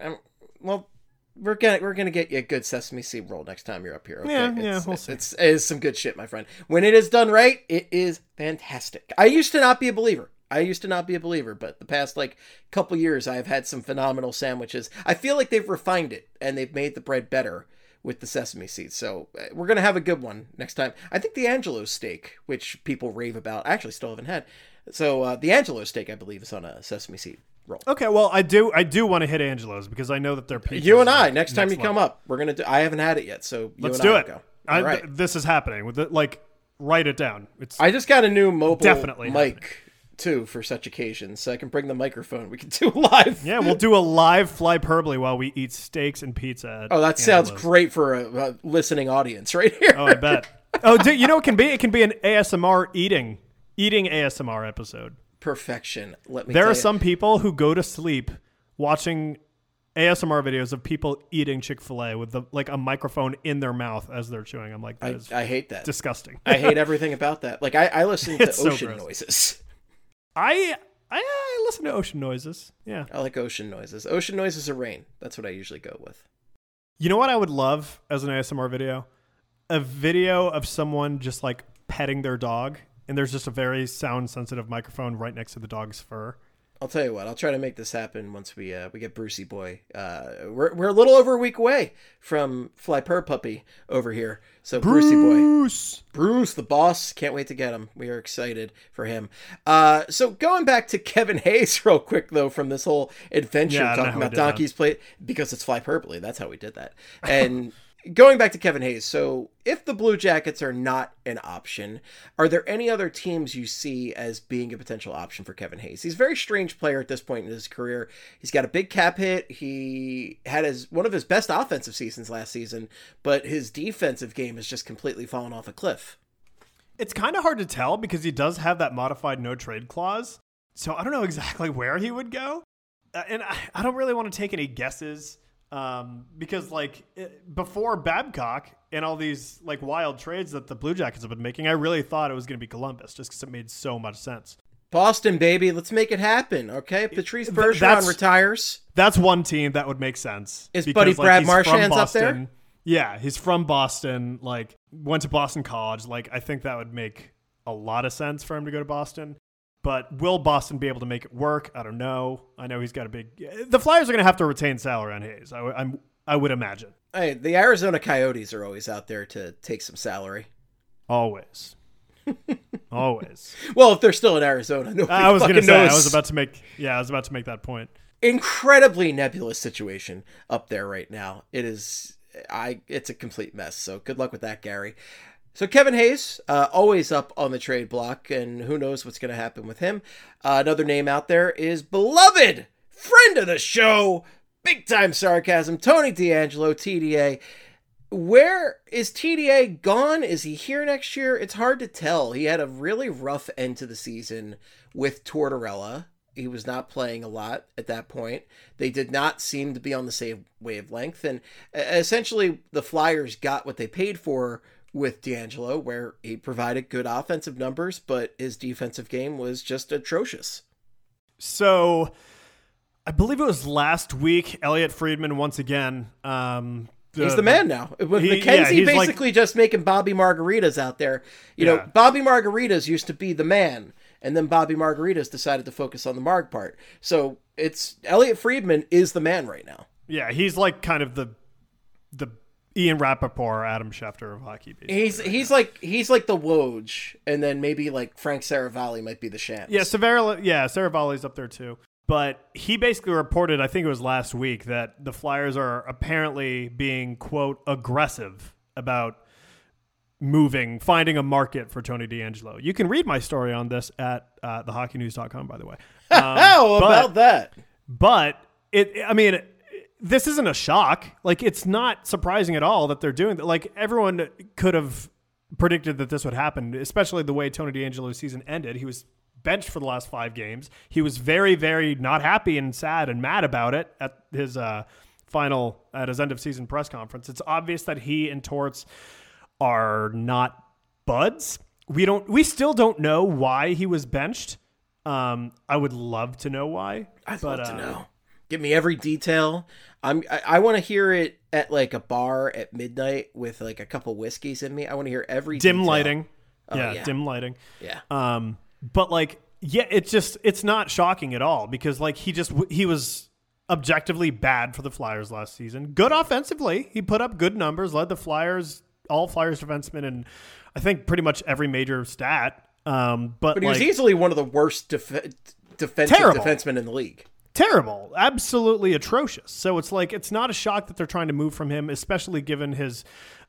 Speaker 1: get you a good sesame seed roll next time you're up here. Okay?
Speaker 2: Yeah, we'll see.
Speaker 1: It is some good shit, my friend. When it is done right, it is fantastic. I used to not be a believer, but the past couple years, I've had some phenomenal sandwiches. I feel like they've refined it and they've made the bread better with the sesame seeds. So we're going to have a good one next time. I think the Angelo's steak, which people rave about, I actually still haven't had. So the Angelo's steak, I believe, is on a sesame seed roll.
Speaker 2: Okay, well, I do want to hit Angelo's because I know that they're pizza.
Speaker 1: You and I, next time you come up, we're going to I haven't had it yet, so
Speaker 2: let's do it.
Speaker 1: Go. All right.
Speaker 2: This is happening. Write it down.
Speaker 1: I just got a new mobile
Speaker 2: definitely
Speaker 1: mic.
Speaker 2: Happening.
Speaker 1: Too, for such occasions, so I can bring the microphone. We can do live.
Speaker 2: Yeah, we'll do a live Flyperbole while we eat steaks and pizza.
Speaker 1: Oh, that sounds great for a listening audience right here.
Speaker 2: Oh, I bet. Oh, you know what it can be? It can be an ASMR eating ASMR episode.
Speaker 1: Perfection.
Speaker 2: There are some people who go to sleep watching ASMR videos of people eating Chick-fil-A with a microphone in their mouth as they're chewing. I'm like,
Speaker 1: I hate that.
Speaker 2: Disgusting.
Speaker 1: I hate everything about that. I listen to ocean noises.
Speaker 2: I listen to ocean noises. Yeah.
Speaker 1: I like ocean noises. Ocean noises are rain. That's what I usually go with.
Speaker 2: You know what I would love as an ASMR video? A video of someone just petting their dog, and there's just a very sound sensitive microphone right next to the dog's fur.
Speaker 1: I'll tell you what. I'll try to make this happen once we get Brucey Boy. We're a little over a week away from Flyper Puppy over here. So Brucey Boy, Bruce, the boss. Can't wait to get him. We are excited for him. So going back to Kevin Hayes real quick though, from this whole adventure talking about Donkey's Plate, because it's Flyperbole. That's how we did that. And going back to Kevin Hayes, so if the Blue Jackets are not an option, are there any other teams you see as being a potential option for Kevin Hayes? He's a very strange player at this point in his career. He's got a big cap hit. He had one of his best offensive seasons last season, but his defensive game has just completely fallen off a cliff.
Speaker 2: It's kind of hard to tell because he does have that modified no trade clause. So I don't know exactly where he would go. And I don't really want to take any guesses. Because before Babcock and all these wild trades that the Blue Jackets have been making, I really thought it was going to be Columbus just because it made so much sense.
Speaker 1: Boston, baby, let's make it happen. Okay, Patrice Bergeron retires.
Speaker 2: That's one team that would make sense.
Speaker 1: Is Buddy Brad Marchand's up there?
Speaker 2: Yeah, he's from Boston, like went to Boston College. Like I think that would make a lot of sense for him to go to Boston. But will Boston be able to make it work? I don't know. I know he's got a big... The Flyers are going to have to retain salary on Hayes, I would imagine.
Speaker 1: Hey, the Arizona Coyotes are always out there to take some salary.
Speaker 2: Always. Always.
Speaker 1: Well, if they're still in Arizona, nobody
Speaker 2: I was going to say,
Speaker 1: knows.
Speaker 2: I was about to make that point.
Speaker 1: Incredibly nebulous situation up there right now. It's a complete mess. So good luck with that, Gary. So Kevin Hayes, always up on the trade block, and who knows what's going to happen with him. Another name out there is beloved friend of the show, big time sarcasm, Tony DeAngelo, TDA. Where is TDA gone? Is he here next year? It's hard to tell. He had a really rough end to the season with Tortorella. He was not playing a lot at that point. They did not seem to be on the same wavelength. And essentially, the Flyers got what they paid for with DeAngelo, where he provided good offensive numbers, but his defensive game was just atrocious.
Speaker 2: So I believe it was last week, Elliot Friedman once again...
Speaker 1: he's the man now. With McKenzie basically just making Bobby Margaritas out there. You know, Bobby Margaritas used to be the man, and then Bobby Margaritas decided to focus on the Marg part. So it's Elliot Friedman is the man right now.
Speaker 2: Yeah, he's like kind of the Ian Rappaport, Adam Schefter of hockey.
Speaker 1: He's like the Woj, and then maybe like Frank Saravalli might be the Shams.
Speaker 2: Yeah, Saravalli's up there too. But he basically reported, I think it was last week, that the Flyers are apparently being, quote, aggressive about finding a market for Tony DeAngelo. You can read my story on this at thehockeynews.com, by the way.
Speaker 1: How about that?
Speaker 2: But, this isn't a shock. Like, it's not surprising at all that they're doing that. Like, everyone could have predicted that this would happen, especially the way Tony DeAngelo's season ended. He was benched for the last 5 games. He was very, very not happy and sad and mad about it at his end of season press conference. It's obvious that he and Torts are not buds. We still don't know why he was benched. I would love to know why.
Speaker 1: I'd love to know. Give me every detail. I want to hear it at like a bar at midnight with like a couple whiskeys in me. I want to hear every
Speaker 2: dim
Speaker 1: detail.
Speaker 2: lighting.
Speaker 1: Oh, yeah,
Speaker 2: dim lighting.
Speaker 1: Yeah.
Speaker 2: But like, yeah, it's not shocking at all because like he was objectively bad for the Flyers last season. Good offensively. He put up good numbers, led the Flyers, all Flyers defensemen, and I think pretty much every major stat. But
Speaker 1: he was easily one of the worst defensive defensemen in the league.
Speaker 2: Terrible. Absolutely atrocious. So it's like, it's not a shock that they're trying to move from him, especially given his,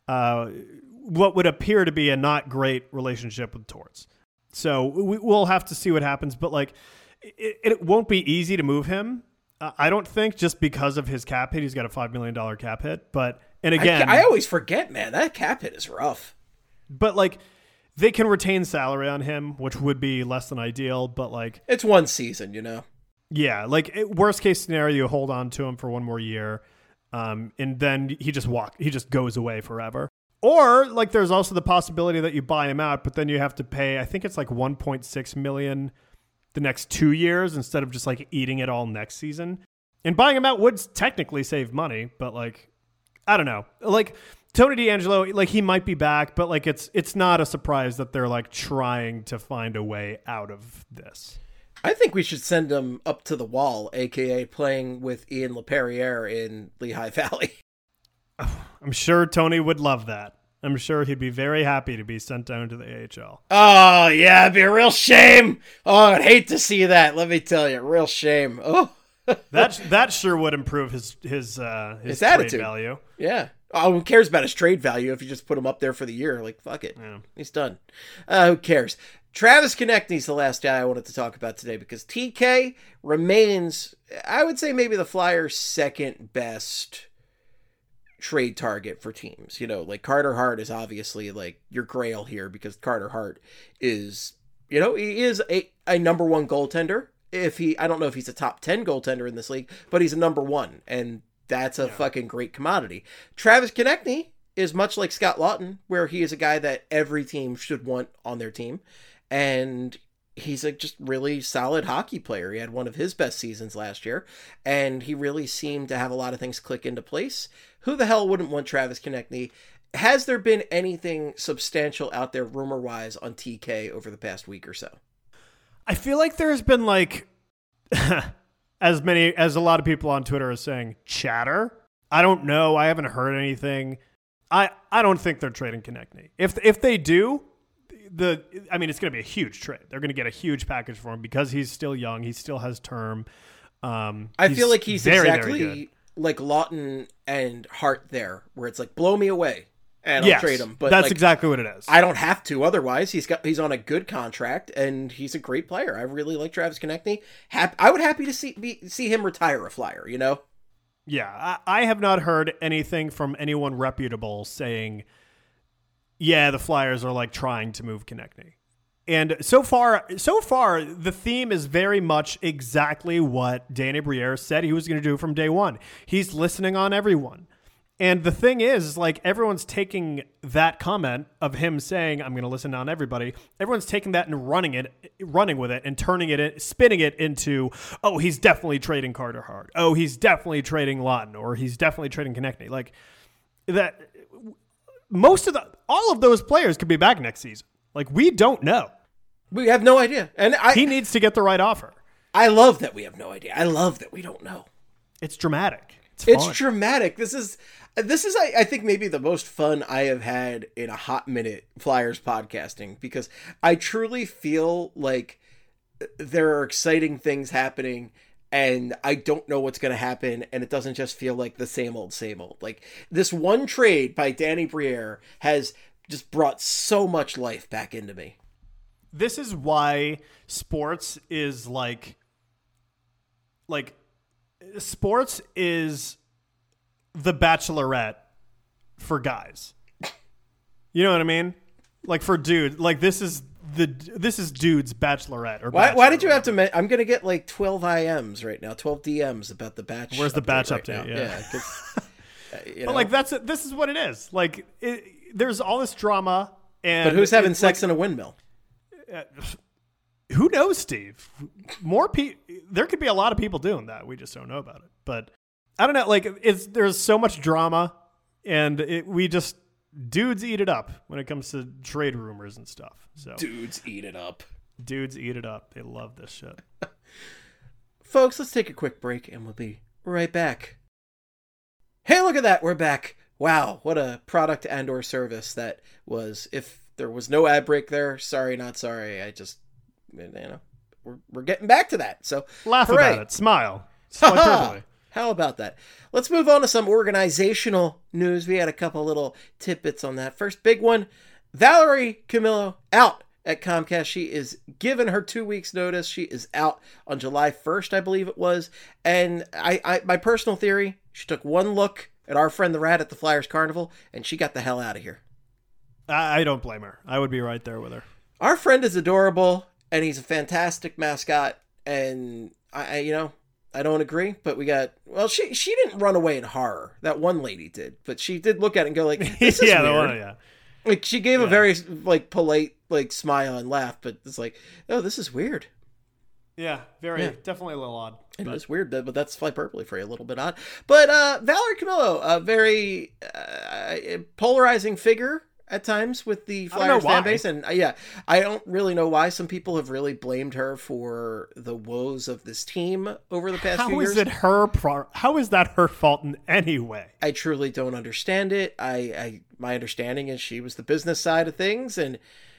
Speaker 2: what would appear to be a not great relationship with Torts. So we'll have to see what happens, but like, it won't be easy to move him. I don't think, just because of his cap hit. He's got a $5 million cap hit, and again,
Speaker 1: I always forget, man, that cap hit is rough.
Speaker 2: But like, they can retain salary on him, which would be less than ideal, but like,
Speaker 1: it's one season, you know?
Speaker 2: Yeah. Like, worst case scenario, you hold on to him for one more year. And then he just goes away forever. Or like, there's also the possibility that you buy him out, but then you have to pay, I think it's like $1.6 million the next 2 years instead of just like eating it all next season. And buying him out would technically save money, but like, I don't know. Like, Tony DeAngelo, like, he might be back, but like, it's not a surprise that they're like trying to find a way out of this.
Speaker 1: I think we should send him up to the wall, a.k.a. playing with Ian LaPerriere in Lehigh Valley.
Speaker 2: I'm sure Tony would love that. I'm sure he'd be very happy to be sent down to the AHL.
Speaker 1: Oh, yeah, it'd be a real shame. Oh, I'd hate to see that. Let me tell you, real shame. Oh,
Speaker 2: that sure would improve his
Speaker 1: attitude
Speaker 2: value.
Speaker 1: Yeah. Oh, who cares about his trade value if you just put him up there for the year? Like, fuck it.
Speaker 2: Yeah.
Speaker 1: He's done. Who cares? Travis Konecny's the last guy I wanted to talk about today because TK remains, I would say, maybe the Flyers' second best trade target for teams. You know, like, Carter Hart is obviously like your grail here because Carter Hart is, you know, he is a number one goaltender. I don't know if he's a top 10 goaltender in this league, but he's a number one, and that's a fucking great commodity. Travis Konecny is much like Scott Laughton, where he is a guy that every team should want on their team. And he's a just really solid hockey player. He had one of his best seasons last year, and he really seemed to have a lot of things click into place. Who the hell wouldn't want Travis Konecny? Has there been anything substantial out there rumor-wise on TK over the past week or so?
Speaker 2: I feel like there's been like as a lot of people on Twitter are saying chatter. I don't know. I haven't heard anything. I don't think they're trading Konecny. If they do, it's going to be a huge trade. They're going to get a huge package for him because he's still young. He still has term.
Speaker 1: I feel like he's very, exactly very like Lawton and Hart there, where it's like, blow me away and I'll trade him. But
Speaker 2: that's exactly what it is.
Speaker 1: I don't have to. Otherwise, he's on a good contract and he's a great player. I really like Travis Konecny. I would happy to see him retire a Flyer, you know?
Speaker 2: Yeah, I have not heard anything from anyone reputable saying, yeah, the Flyers are like trying to move Konecny. And so far, the theme is very much exactly what Danny Briere said he was going to do from day one. He's listening on everyone. And the thing is, like, everyone's taking that comment of him saying, I'm going to listen on everybody. Everyone's taking that and running with it and turning it, spinning it into, oh, he's definitely trading Carter Hart. Oh, he's definitely trading Lawton, or he's definitely trading Konecny. Like that, all of those players could be back next season. Like, we don't know.
Speaker 1: We have no idea. And
Speaker 2: he needs to get the right offer.
Speaker 1: I love that we have no idea. I love that we don't know.
Speaker 2: It's dramatic.
Speaker 1: It's dramatic. This is, I think, maybe the most fun I have had in a hot minute Flyers podcasting, because I truly feel like there are exciting things happening and I don't know what's going to happen. And it doesn't just feel like the same old, same old. Like, this one trade by Danny Briere has just brought so much life back into me.
Speaker 2: This is why sports is like sports is the Bachelorette for guys. You know what I mean? Like, for dude, like this is dude's Bachelorette. Or
Speaker 1: why did you have to? I'm gonna get like 12 IMs right now, 12 DMs about the Batch.
Speaker 2: Where's the Batch
Speaker 1: right
Speaker 2: update?
Speaker 1: Now. Yeah. You know?
Speaker 2: But like this is what it is. Like, there's all this drama, and
Speaker 1: but who's having sex in a windmill?
Speaker 2: Who knows, Steve? There could be a lot of people doing that. We just don't know about it. But I don't know. Like, there's so much drama, and dudes eat it up when it comes to trade rumors and stuff. So
Speaker 1: dudes eat it up.
Speaker 2: Dudes eat it up. They love this shit.
Speaker 1: Folks, let's take a quick break, and we'll be right back. Hey, look at that. We're back. Wow, what a product and/or service that was. If there was no ad break there, sorry, not sorry. I just, we're getting back to that. So
Speaker 2: laugh about it. Smile.
Speaker 1: How about that? Let's move on to some organizational news. We had a couple little tidbits on that. First big one, Valerie Camillo out at Comcast. She is given her 2 weeks notice. She is out on July 1st, I believe it was. And my personal theory, she took one look at our friend the Rat at the Flyers Carnival, and she got the hell out of here.
Speaker 2: I don't blame her. I would be right there with her.
Speaker 1: Our friend is adorable, and he's a fantastic mascot, and I don't agree, but she didn't run away in horror. That one lady did, but she did look at it and go like, this is weird.
Speaker 2: The one, yeah.
Speaker 1: Like, she gave a very like polite like smile and laugh, but it's like, oh, this is weird.
Speaker 2: Yeah, definitely a little odd.
Speaker 1: It was weird, but that's hyperbole for you, a little bit odd. But Valerie Camillo, a very polarizing figure at times with the Flyers fan base. And I don't really know why. Some people have really blamed her for the woes of this team over the past few years.
Speaker 2: How is that her fault in any way?
Speaker 1: I truly don't understand it. My understanding is she was the business side of things, and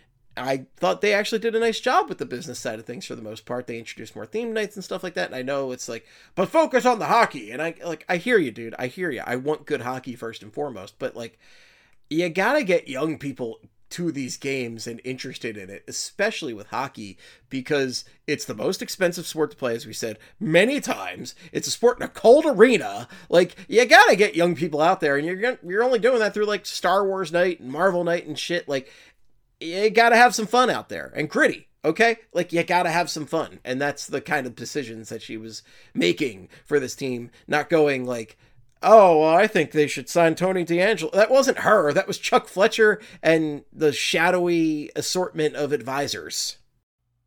Speaker 1: I thought they actually did a nice job with the business side of things for the most part. They introduced more theme nights and stuff like that. And I know it's like, but focus on the hockey. And I hear you, dude. I hear you. I want good hockey first and foremost, but like, you gotta get young people to these games and interested in it, especially with hockey, because it's the most expensive sport to play, as we said many times. It's a sport in a cold arena. Like, you gotta get young people out there, and you're only doing that through like Star Wars night and Marvel night and shit. Like, you gotta have some fun out there, and gritty. Okay? Like, you gotta have some fun. And that's the kind of decisions that she was making for this team, not going like, oh, well, I think they should sign Tony DeAngelo. That wasn't her. That was Chuck Fletcher and the shadowy assortment of advisors.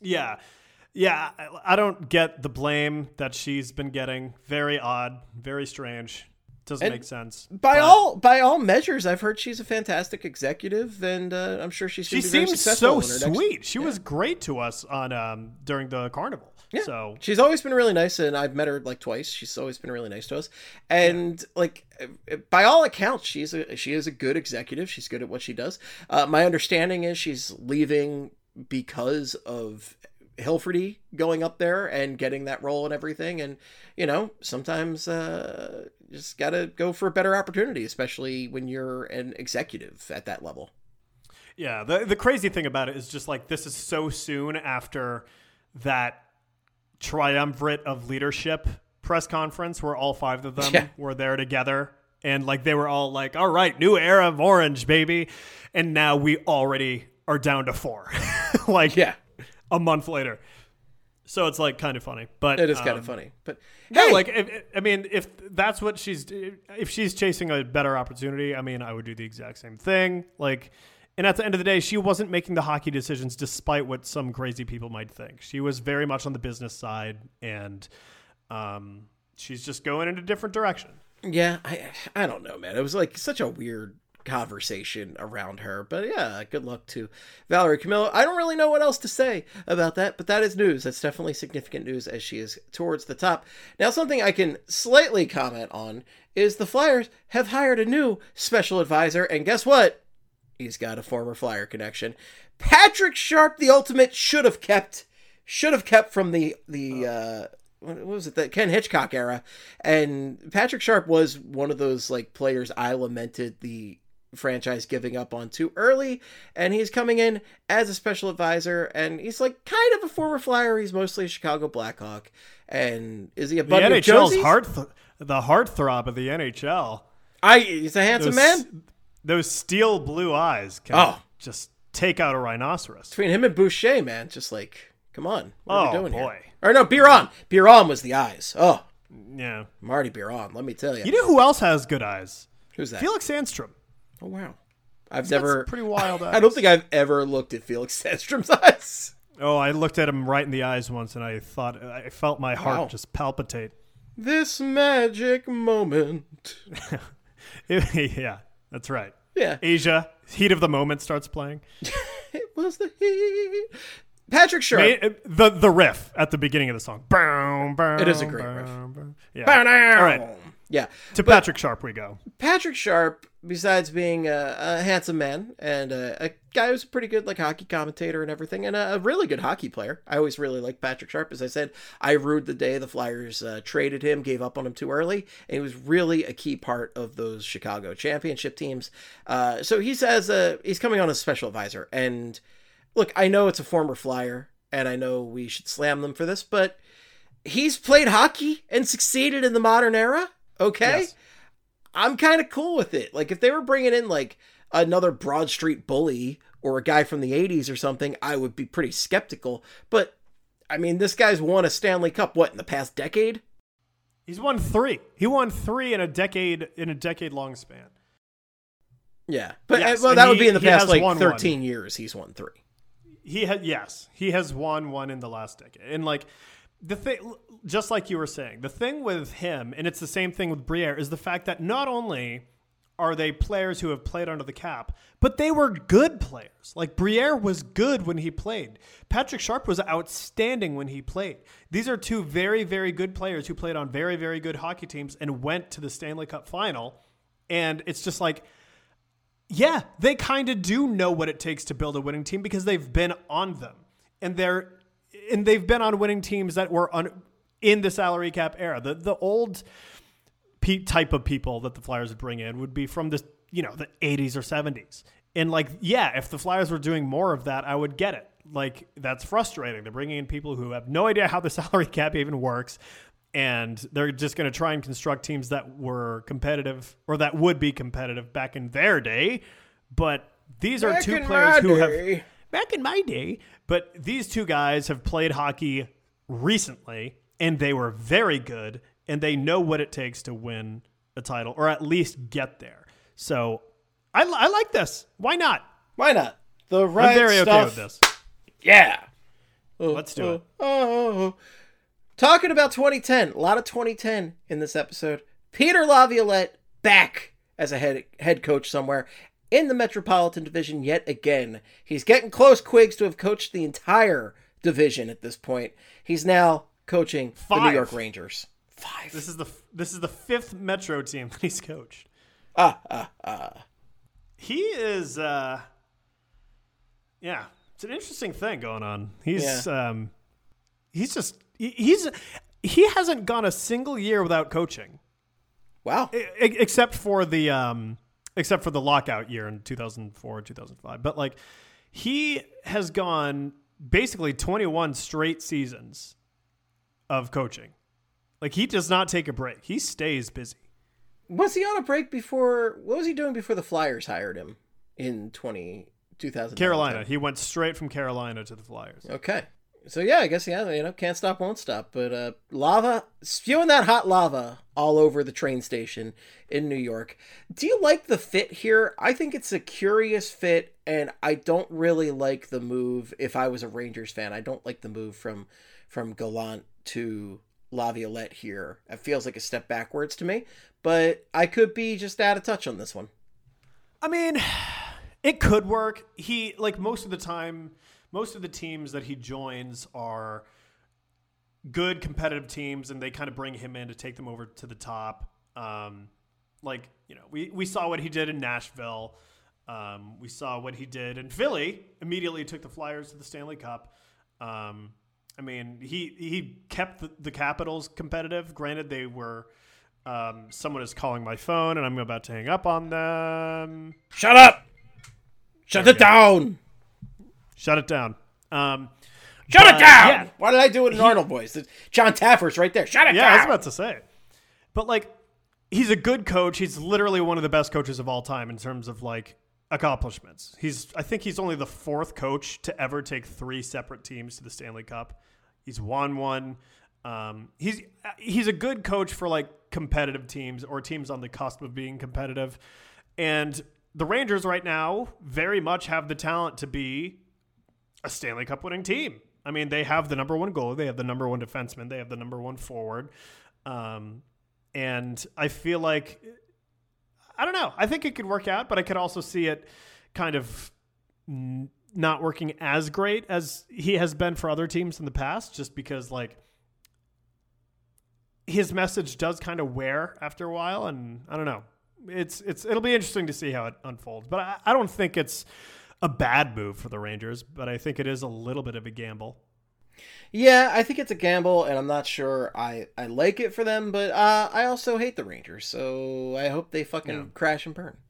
Speaker 2: Yeah. Yeah, I don't get the blame that she's been getting. Very odd, very strange. Doesn't make sense.
Speaker 1: By all measures, I've heard she's a fantastic executive, and I'm sure she's
Speaker 2: she
Speaker 1: very
Speaker 2: seems
Speaker 1: successful.
Speaker 2: So sweet. She was great to us on during the carnival.
Speaker 1: Yeah.
Speaker 2: So
Speaker 1: she's always been really nice, and I've met her like twice. She's always been really nice to us, and like by all accounts, she is a good executive. She's good at what she does. My understanding is she's leaving because of Hilferty going up there and getting that role and everything. And, you know, sometimes just got to go for a better opportunity, especially when you're an executive at that level.
Speaker 2: Yeah. The crazy thing about it is just like, this is so soon after that triumvirate of leadership press conference where all 5 of them were there together. And like, they were all like, all right, new era of Orange, baby. And now we already are down to 4. Like, a month later. So it's like kind of funny, but
Speaker 1: it is kind of funny, but
Speaker 2: no, like, if that's what if she's chasing a better opportunity, I mean, I would do the exact same thing. Like, and at the end of the day, she wasn't making the hockey decisions despite what some crazy people might think. She was very much on the business side, and she's just going in a different direction.
Speaker 1: Yeah. I don't know, man. It was like such a weird conversation around her, but yeah, good luck to Valerie Camillo. I don't really know what else to say about that, but that is news. That's definitely significant news as she is towards the top. Now, something I can slightly comment on is the Flyers have hired a new special advisor, and guess what? He's got a former Flyer connection. Patrick Sharp, the ultimate, should have kept from the what was it, the Ken Hitchcock era. And Patrick Sharp was one of those like players I lamented the franchise giving up on too early, and he's coming in as a special advisor, and he's like kind of a former Flyer. He's mostly a Chicago Blackhawk. And is he a buddy of Josie's?
Speaker 2: The heartthrob of the NHL.
Speaker 1: He's a handsome man.
Speaker 2: Those steel blue eyes can just take out a rhinoceros.
Speaker 1: Between him and Boucher, man, just like, come on, what are we doing
Speaker 2: boy.
Speaker 1: here? Or no, Biron. Biron was the eyes. Oh,
Speaker 2: yeah,
Speaker 1: Marty Biron. Let me tell you.
Speaker 2: You know who else has good eyes?
Speaker 1: Who's that?
Speaker 2: Felix Sandstrom.
Speaker 1: Oh wow, I've never
Speaker 2: pretty wild eyes.
Speaker 1: I don't think I've ever looked at Felix Sandstrom's eyes.
Speaker 2: Oh, I looked at him right in the eyes once, and I felt my heart just palpitate.
Speaker 1: This magic moment.
Speaker 2: Yeah, that's right.
Speaker 1: Yeah,
Speaker 2: Asia, heat of the moment starts playing.
Speaker 1: It was the heat. Patrick Sharp.
Speaker 2: The riff at the beginning of the song.
Speaker 1: It is a great riff.
Speaker 2: Yeah. All right.
Speaker 1: Yeah.
Speaker 2: Patrick Sharp we go.
Speaker 1: Patrick Sharp, besides being a handsome man and a guy who's a pretty good like hockey commentator and everything, and a really good hockey player. I always really liked Patrick Sharp. As I said, I rued the day the Flyers traded him, gave up on him too early, and he was really a key part of those Chicago championship teams. So he's coming on as special advisor. And look, I know it's a former Flyer, and I know we should slam them for this, but he's played hockey and succeeded in the modern era. Okay. Yes. I'm kind of cool with it. Like if they were bringing in like another Broad Street bully or a guy from the 80s or something, I would be pretty skeptical. But I mean, this guy's won a Stanley Cup, in the past decade?
Speaker 2: He's won 3. He won 3 in a decade long span.
Speaker 1: Yeah. But that would be in the past like 13 years. He's won 3.
Speaker 2: He has won 1 in the last decade. And like, the thing, just like you were saying, the thing with him, and it's the same thing with Briere, is the fact that not only are they players who have played under the cap, but they were good players. Like Briere was good when he played. Patrick Sharp was outstanding when he played. These are 2 very, very good players who played on very, very good hockey teams and went to the Stanley Cup final. And it's just like, yeah, they kind of do know what it takes to build a winning team because they've been on them. And they've been on winning teams that were in the salary cap era. The old type of people that the Flyers would bring in would be from the 80s or 70s. And like, yeah, if the Flyers were doing more of that, I would get it. Like, that's frustrating. They're bringing in people who have no idea how the salary cap even works. And they're just going to try and construct teams that were competitive or that would be competitive back in their day. But these are 2 players who have... Back in my day. But these 2 guys have played hockey recently, and they were very good, and they know what it takes to win a title, or at least get there. So I like this. Why not?
Speaker 1: Why not? The right
Speaker 2: I'm very
Speaker 1: stuff.
Speaker 2: okay with this.
Speaker 1: Yeah.
Speaker 2: Let's do it.
Speaker 1: Oh. Talking about 2010, a lot of 2010 in this episode. Peter Laviolette back as a head coach somewhere in the Metropolitan Division yet again. He's getting close, Quiggs, to have coached the entire division at this point. He's now coaching the New York Rangers. 5.
Speaker 2: This is the 5th Metro team that he's coached. He is it's an interesting thing going on. He hasn't gone a single year without coaching.
Speaker 1: Wow.
Speaker 2: Except for the lockout year in 2004, 2005. But like he has gone basically 21 straight seasons of coaching. Like he does not take a break. He stays busy.
Speaker 1: Was he on a break before? What was he doing before the Flyers hired him in 2000?
Speaker 2: Carolina. He went straight from Carolina to the Flyers.
Speaker 1: Okay. So yeah, I guess can't stop, won't stop. But lava, spewing that hot lava all over the train station in New York. Do you like the fit here? I think it's a curious fit, and I don't really like the move. If I was a Rangers fan, I don't like the move from Gallant to Laviolette here. It feels like a step backwards to me, but I could be just out of touch on this one.
Speaker 2: I mean, it could work. He, like, most of the time, most of the teams that he joins are good competitive teams, and they kind of bring him in to take them over to the top. We saw what he did in Nashville. We saw what he did in Philly. Immediately took the Flyers to the Stanley Cup. I mean, he kept the Capitals competitive. Granted, they were someone is calling my phone, and I'm about to hang up on them.
Speaker 1: Shut up! Shut it down!
Speaker 2: Shut it down.
Speaker 1: Shut it down! Yeah. Why did I do it in Arnold voice? John Taffer's right there. Shut it down!
Speaker 2: Yeah, I was about to say. But, like, he's a good coach. He's literally one of the best coaches of all time in terms of, like, accomplishments. I think he's only the 4th coach to ever take 3 separate teams to the Stanley Cup. He's won one. He's a good coach for like competitive teams or teams on the cusp of being competitive. And the Rangers right now very much have the talent to be a Stanley Cup winning team. I mean, they have the number 1 goalie, they have the number 1 defenseman, they have the number 1 forward. And I feel like, I don't know, I think it could work out, but I could also see it kind of not working as great as he has been for other teams in the past, just because like his message does kind of wear after a while. And I don't know, it'll be interesting to see how it unfolds, but I don't think it's a bad move for the Rangers, but I think it is a little bit of a gamble.
Speaker 1: Yeah, I think it's a gamble, and I'm not sure I like it for them, but I also hate the Rangers, so I hope they fucking crash and burn.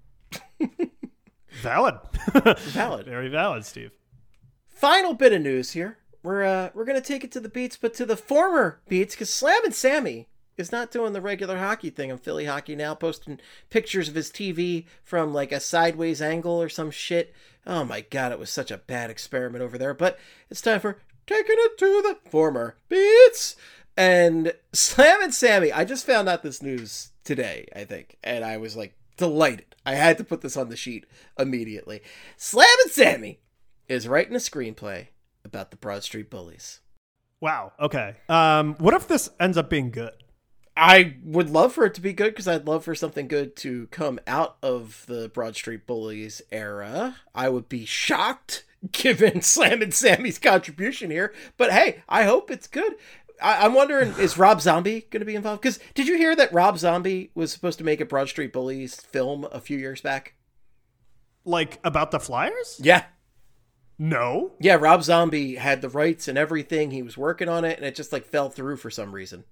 Speaker 2: Valid.
Speaker 1: Valid.
Speaker 2: Very valid, Steve.
Speaker 1: Final bit of news here. We're going to take it to the Beats, but to the former Beats, because Slammin' Sammy is not doing the regular hockey thing on Philly Hockey now, posting pictures of his TV from like a sideways angle or some shit. Oh my God, it was such a bad experiment over there, but it's time for taking it to the former Beats. And Slammin' Sammy, I just found out this news today, I think, and I was like delighted. I had to put this on the sheet immediately. Slammin' Sammy is writing a screenplay about the Broad Street Bullies.
Speaker 2: Wow. Okay. What if this ends up being good?
Speaker 1: I would love for it to be good, because I'd love for something good to come out of the Broad Street Bullies era. I would be shocked given Slammin' Sammy's contribution here, but hey, I hope it's good. I'm wondering, is Rob Zombie going to be involved? Because did you hear that Rob Zombie was supposed to make a Broad Street Bullies film a few years back?
Speaker 2: Like about the Flyers?
Speaker 1: Yeah.
Speaker 2: No.
Speaker 1: Yeah, Rob Zombie had the rights and everything. He was working on it, and it just like fell through for some reason.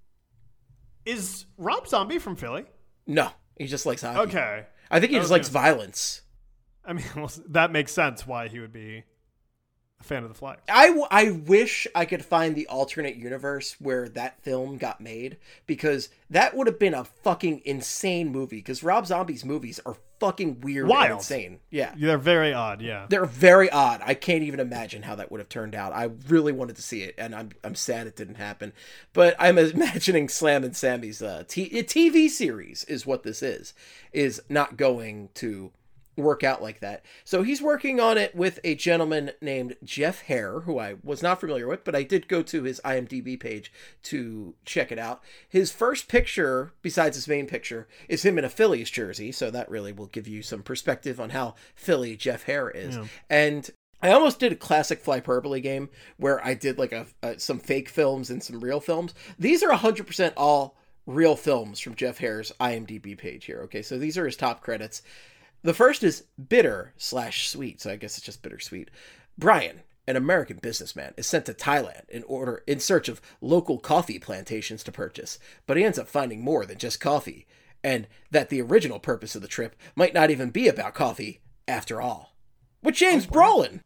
Speaker 2: Is Rob Zombie from Philly?
Speaker 1: No, he just likes hockey.
Speaker 2: Okay.
Speaker 1: I think he just likes violence.
Speaker 2: I mean, well, that makes sense why he would be a fan of the Flyers.
Speaker 1: I wish I could find the alternate universe where that film got made, because that would have been a fucking insane movie, because Rob Zombie's movies are fucking weird and insane. Yeah.
Speaker 2: They're very odd, yeah.
Speaker 1: They're very odd. I can't even imagine how that would have turned out. I really wanted to see it, and I'm sad it didn't happen. But I'm imagining Slammin' Sammy's TV series is what this is not going to work out like that. So he's working on it with a gentleman named Jeff Hare, who I was not familiar with, but I did go to his IMDb page to check it out. His first picture, besides his main picture, is him in a Phillies jersey, so that really will give you some perspective on how Philly Jeff Hare is. Yeah. And I almost did a classic Flyperbole game where I did like some fake films and some real films. These are 100% all real films from Jeff Hare's IMDb page here. Okay, so these are his top credits. The first is Bitter/Sweet, so I guess it's just bittersweet. Brian, an American businessman, is sent to Thailand in search of local coffee plantations to purchase, but he ends up finding more than just coffee, and that the original purpose of the trip might not even be about coffee after all. With James Brolin.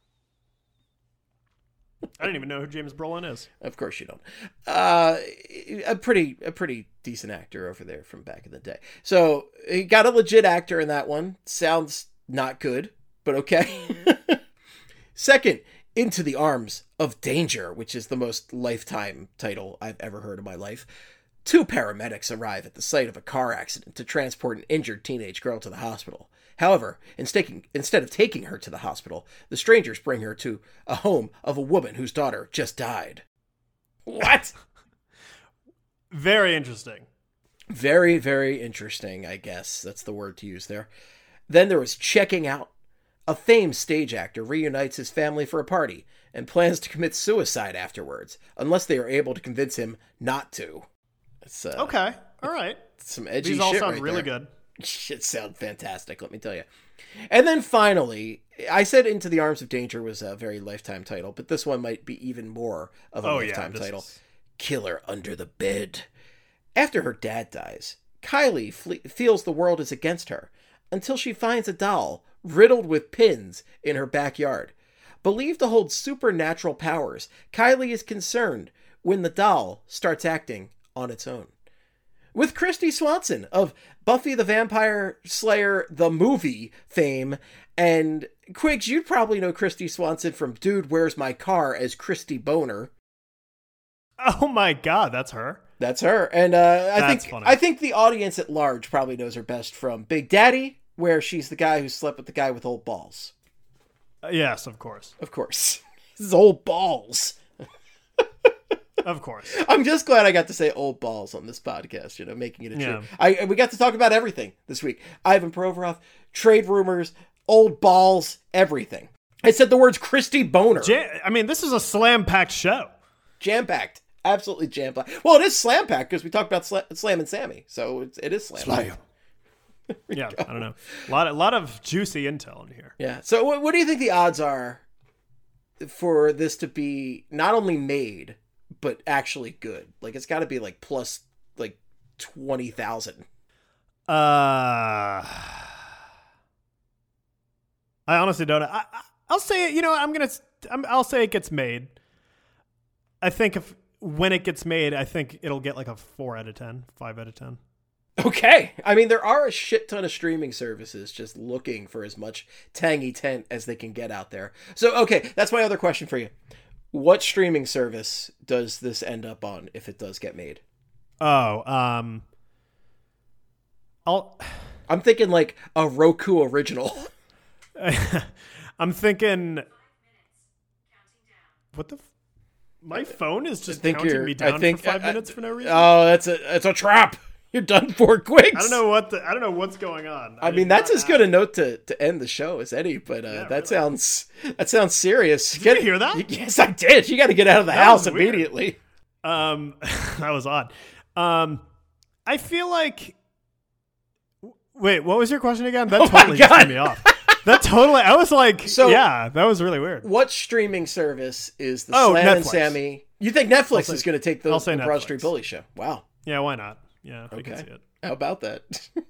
Speaker 2: I didn't even know who James Brolin is.
Speaker 1: Of course you don't. A pretty decent actor over there from back in the day. So he got a legit actor in that one. Sounds not good, but okay. Second, Into the Arms of Danger, which is the most Lifetime title I've ever heard in my life. 2 paramedics arrive at the site of a car accident to transport an injured teenage girl to the hospital. However, instead of taking her to the hospital, the strangers bring her to a home of a woman whose daughter just died. What?
Speaker 2: Very interesting.
Speaker 1: Very, very interesting, I guess. That's the word to use there. Then there was Checking Out. A famed stage actor reunites his family for a party and plans to commit suicide afterwards, unless they are able to convince him not to. It's,
Speaker 2: okay, all right.
Speaker 1: Some edgy shit.
Speaker 2: These all sound
Speaker 1: right
Speaker 2: really
Speaker 1: there.
Speaker 2: good.
Speaker 1: Shit sound fantastic, let me tell you. And then finally, I said Into the Arms of Danger was a very Lifetime title, but this one might be even more of a Lifetime title. Killer Under the Bed. After her dad dies, Kylie feels the world is against her until she finds a doll riddled with pins in her backyard. Believed to hold supernatural powers, Kylie is concerned when the doll starts acting on its own. With Kristy Swanson of Buffy the Vampire Slayer the movie fame, and Quiggs, you'd probably know Kristy Swanson from Dude, Where's My Car as Christy Boner.
Speaker 2: Oh my god, that's her?
Speaker 1: That's her. And I think the audience at large probably knows her best from Big Daddy, where she's the guy who slept with the guy with old balls.
Speaker 2: Yes, of course.
Speaker 1: Of course. His old balls.
Speaker 2: Of course.
Speaker 1: I'm just glad I got to say old balls on this podcast, making it a treat. We got to talk about everything this week. Ivan Provorov, trade rumors, old balls, everything. I said the words Christy Boner.
Speaker 2: This is a slam-packed show.
Speaker 1: Jam-packed. Absolutely jam-packed. Well, it is slam-packed because we talked about Slam and Sammy, so it is slam-packed.
Speaker 2: Yeah, I don't know. A lot of juicy intel in here.
Speaker 1: Yeah. So what do you think the odds are for this to be not only made, but actually good? Like, it's got to be like plus like 20,000.
Speaker 2: I honestly don't know. I'll say it. I'll say it gets made. I think when it gets made, I think it'll get like a 4 out of 10, 5 out of 10.
Speaker 1: Okay. I mean, there are a shit ton of streaming services just looking for as much tangy tent as they can get out there. So, okay, that's my other question for you. What streaming service does this end up on if it does get made?
Speaker 2: I'm
Speaker 1: thinking like a Roku original.
Speaker 2: I'm thinking. What the? My phone is just counting me down for 5 minutes for no reason.
Speaker 1: Oh, it's a trap. You're done for, Quiggs.
Speaker 2: I don't know what's going on.
Speaker 1: I mean, that's as good a note to end the show as any, but that sounds serious.
Speaker 2: Did you hear that?
Speaker 1: Yes, I did. You got to get out of the house immediately.
Speaker 2: That was odd. I feel like. Wait, what was your question again? That totally just threw me off. I was like, that was really weird.
Speaker 1: What streaming service is the Slam
Speaker 2: Netflix.
Speaker 1: and Sammy? You think Netflix is going to take the Broad Street Bully show? Wow.
Speaker 2: Yeah, why not? Yeah,
Speaker 1: okay.
Speaker 2: I can see it.
Speaker 1: How about that?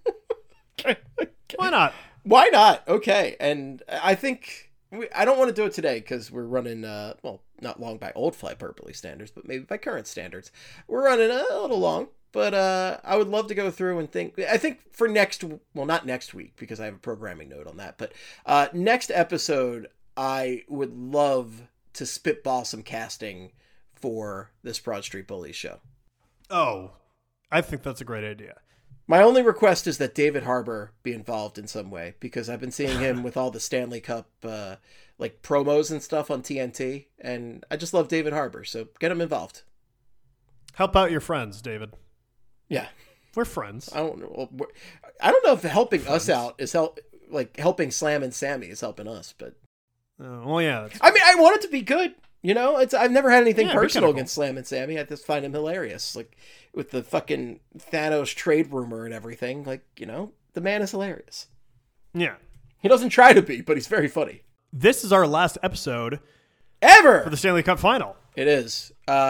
Speaker 2: Why not?
Speaker 1: Why not? Okay. And I think I don't want to do it today because we're running, not long by old Flyperbole standards, but maybe by current standards. We're running a little long, but I would love to go through and think. I think for not next week because I have a programming note on that, but next episode, I would love to spitball some casting for this Broad Street Bullies show.
Speaker 2: Oh, I think that's a great idea.
Speaker 1: My only request is that David Harbour be involved in some way, because I've been seeing him with all the Stanley Cup like promos and stuff on TNT, and I just love David Harbour, so get him involved.
Speaker 2: Help out your friends, David.
Speaker 1: Yeah.
Speaker 2: We're friends.
Speaker 1: I don't know if helping us out is helping Slam and Sammy is helping us, but
Speaker 2: well, yeah.
Speaker 1: I mean, I want it to be good. You know, I've never had anything personal
Speaker 2: cool
Speaker 1: against Slam and Sammy. I just find him hilarious. Like, with the fucking Thanos trade rumor and everything. Like, you know, the man is hilarious.
Speaker 2: Yeah.
Speaker 1: He doesn't try to be, but he's very funny.
Speaker 2: This is our last episode
Speaker 1: ever
Speaker 2: for the Stanley Cup final.
Speaker 1: It is.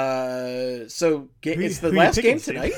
Speaker 1: So it's the last game tonight?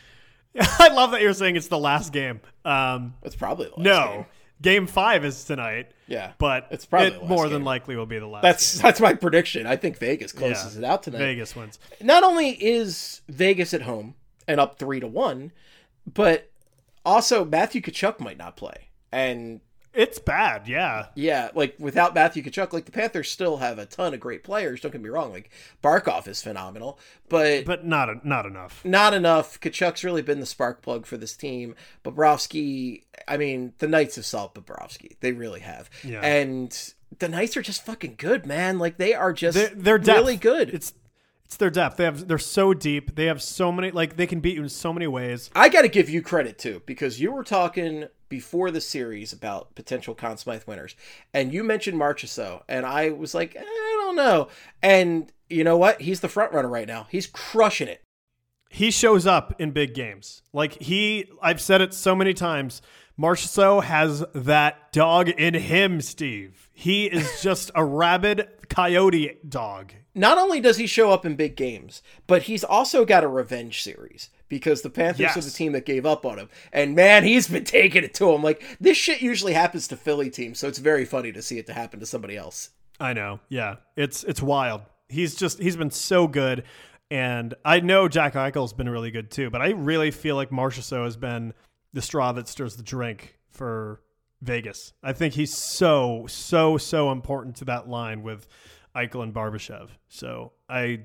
Speaker 2: I love that you're saying it's the last game.
Speaker 1: It's probably the last game.
Speaker 2: Game 5 is tonight.
Speaker 1: Yeah,
Speaker 2: but
Speaker 1: it's probably the last
Speaker 2: more
Speaker 1: game.
Speaker 2: Than likely will be the last.
Speaker 1: That's my prediction. I think Vegas closes it out tonight.
Speaker 2: Vegas wins.
Speaker 1: Not only is Vegas at home and up 3-1, but also Matthew Tkachuk might not play, and
Speaker 2: it's bad. Yeah,
Speaker 1: like without Matthew Tkachuk, like the Panthers still have a ton of great players. Don't get me wrong. Like Barkov is phenomenal, but
Speaker 2: not enough.
Speaker 1: Not enough. Tkachuk's really been the spark plug for this team. Bobrovsky, I mean, the Knights have solved Bobrovsky. They really have.
Speaker 2: Yeah.
Speaker 1: And the Knights are just fucking good, man. Like they are just
Speaker 2: they're
Speaker 1: really good.
Speaker 2: It's their depth. They're so deep. They have so many, like they can beat you in so many ways.
Speaker 1: I got to give you credit too, because you were talking before the series about potential Conn Smythe winners, and you mentioned Marchessault, and I was like, I don't know. And you know what? He's the front runner right now. He's crushing it.
Speaker 2: He shows up in big games. I've said it so many times. Marchessault has that dog in him, Steve. He is just a rabid coyote dog.
Speaker 1: Not only does he show up in big games, but he's also got a revenge series, because the Panthers are the team that gave up on him. And man, he's been taking it to him. Like, this shit usually happens to Philly teams, so it's very funny to see it to happen to somebody else.
Speaker 2: I know. Yeah. It's wild. He's been so good. And I know Jack Eichel's been really good too, but I really feel like Marchessault has been the straw that stirs the drink for Vegas. I think he's so important to that line with Eichel and Barbashev. So I'm